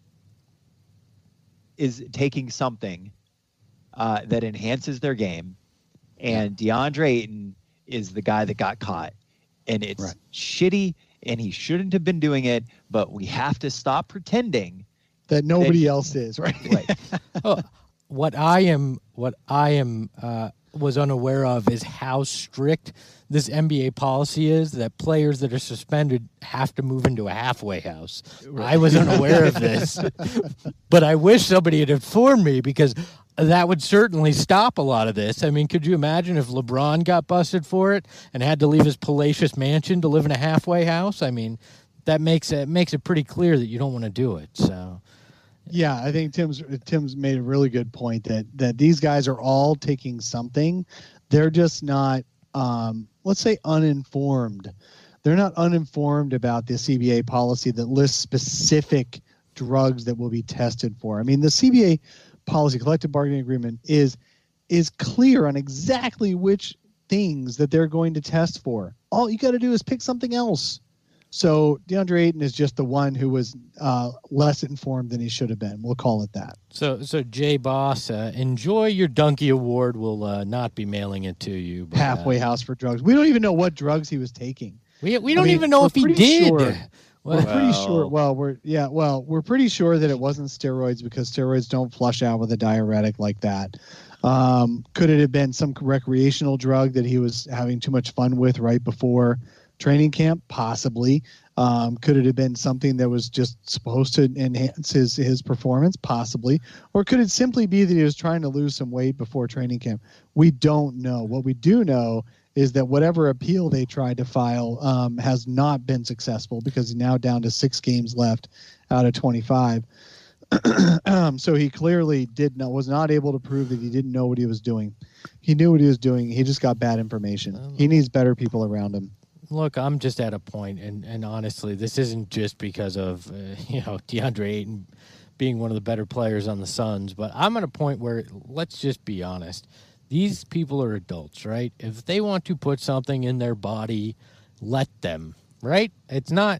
is taking something that enhances their game, and DeAndre Ayton is the guy that got caught, and it's shitty, and he shouldn't have been doing it, but we have to stop pretending that nobody else is, right? Oh, what I am was unaware of is how strict this NBA policy is that players that are suspended have to move into a halfway house. Right. I was unaware of this, but I wish somebody had informed me, because that would certainly stop a lot of this. I mean, could you imagine if LeBron got busted for it and had to leave his palatial mansion to live in a halfway house? I mean, that makes it pretty clear that you don't want to do it. So, yeah, I think Tim's made a really good point that these guys are all taking something. They're just not, let's say, uninformed. They're not uninformed about the CBA policy that lists specific drugs that will be tested for. I mean, the CBA policy, collective bargaining agreement, is clear on exactly which things that they're going to test for. All you got to do is pick something else. So DeAndre Ayton is just the one who was less informed than he should have been. We'll call it that. So Jay Boss, enjoy your Donkey Award. We'll not be mailing it to you. But, halfway house for drugs. We don't even know what drugs he was taking. We don't even know if he did. Sure. We're pretty sure. We're pretty sure that it wasn't steroids, because steroids don't flush out with a diuretic like that. Could it have been some recreational drug that he was having too much fun with right before training camp? Possibly. Could it have been something that was just supposed to enhance his performance? Possibly. Or could it simply be that he was trying to lose some weight before training camp? We don't know. What we do know is that whatever appeal they tried to file has not been successful, because he's now down to 6 games left out of 25. So he clearly was not able to prove that he didn't know what he was doing. He knew what he was doing. He just got bad information. He needs better people around him. Look, I'm just at a point, and honestly, this isn't just because of DeAndre Ayton being one of the better players on the Suns, but I'm at a point where, let's just be honest, these people are adults, right? If they want to put something in their body, let them, right? It's not,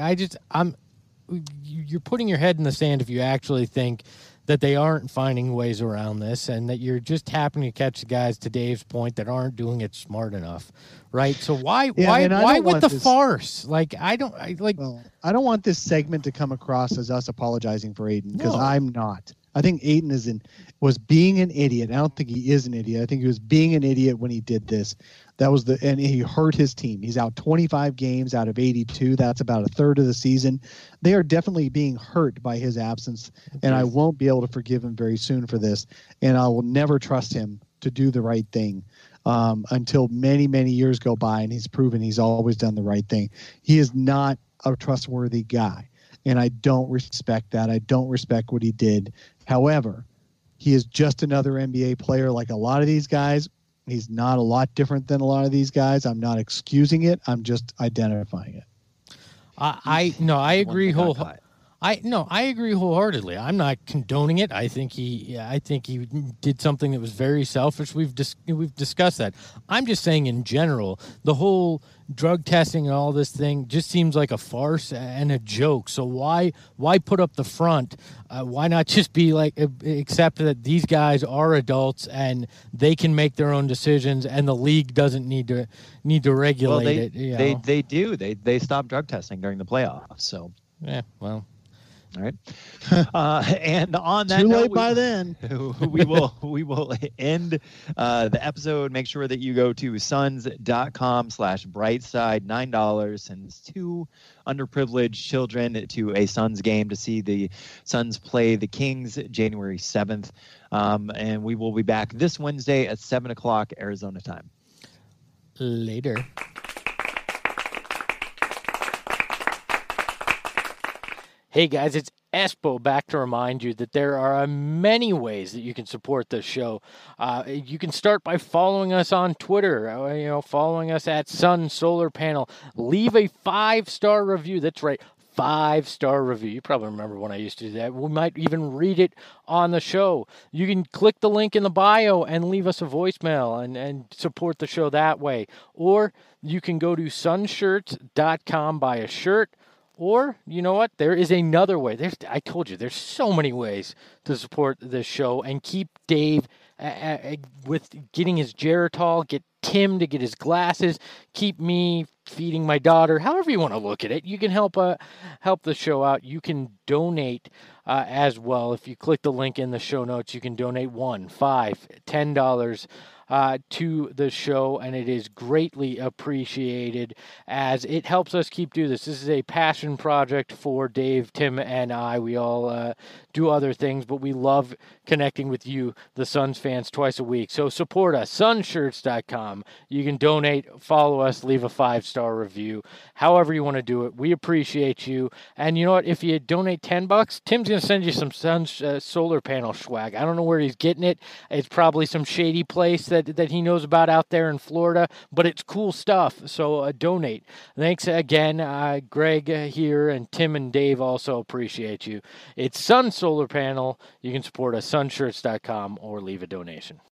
you're putting your head in the sand if you actually think that they aren't finding ways around this, and that you're just happening to catch the guys, to Dave's point, that aren't doing it smart enough, right? So why with the farce? I don't want this segment to come across as us apologizing for Ayton, because I'm not. I think Ayton was being an idiot. I don't think he is an idiot. I think he was being an idiot when he did this. And he hurt his team. He's out 25 games out of 82. That's about a third of the season. They are definitely being hurt by his absence, and I won't be able to forgive him very soon for this. And I will never trust him to do the right thing until many, many years go by, and he's proven he's always done the right thing. He is not a trustworthy guy, and I don't respect that. I don't respect what he did. However, he is just another NBA player like a lot of these guys. He's not a lot different than a lot of these guys. I'm not excusing it. I'm just identifying it. I agree I agree wholeheartedly. I'm not condoning it. I think he did something that was very selfish. We've discussed that. I'm just saying in general, the whole drug testing and all this thing just seems like a farce and a joke. So why put up the front? Why not just be like accept that these guys are adults and they can make their own decisions, and the league doesn't need to regulate it. They do. They stop drug testing during the playoffs. So yeah, well. All right. And on that too note, late by then. we will end the episode. Make sure that you go to suns.com/brightside. $9 sends 2 underprivileged children to a Suns game to see the Suns play the Kings January 7th. And we will be back this Wednesday at 7:00 Arizona time. Later. Hey guys, it's Espo back to remind you that there are many ways that you can support this show. You can start by following us on Twitter, following us at Sun Solar Panel. Leave a 5-star review. That's right, 5-star review. You probably remember when I used to do that. We might even read it on the show. You can click the link in the bio and leave us a voicemail and support the show that way. Or you can go to sunshirts.com, buy a shirt. Or, you know what? There is another way. I told you, there's so many ways to support this show and keep Dave with getting his Geritol, get Tim to get his glasses, keep me feeding my daughter. However you want to look at it, you can help the show out. You can donate as well. If you click the link in the show notes, you can donate $1, $5, $10 to the show, and it is greatly appreciated as it helps us keep doing this. This is a passion project for Dave, Tim, and I. We all do other things, but we love connecting with you, the Suns fans, twice a week. So support us, sunshirts.com. You can donate, follow us, leave a 5-star review, however you want to do it. We appreciate you. And you know what? If you donate $10, Tim's going to send you some Suns solar panel swag. I don't know where he's getting it. It's probably some shady place that he knows about out there in Florida, but it's cool stuff. So donate. Thanks again, Greg here, and Tim and Dave also appreciate you. It's Sun Solar Panel. You can support us, sunshirts.com, or leave a donation.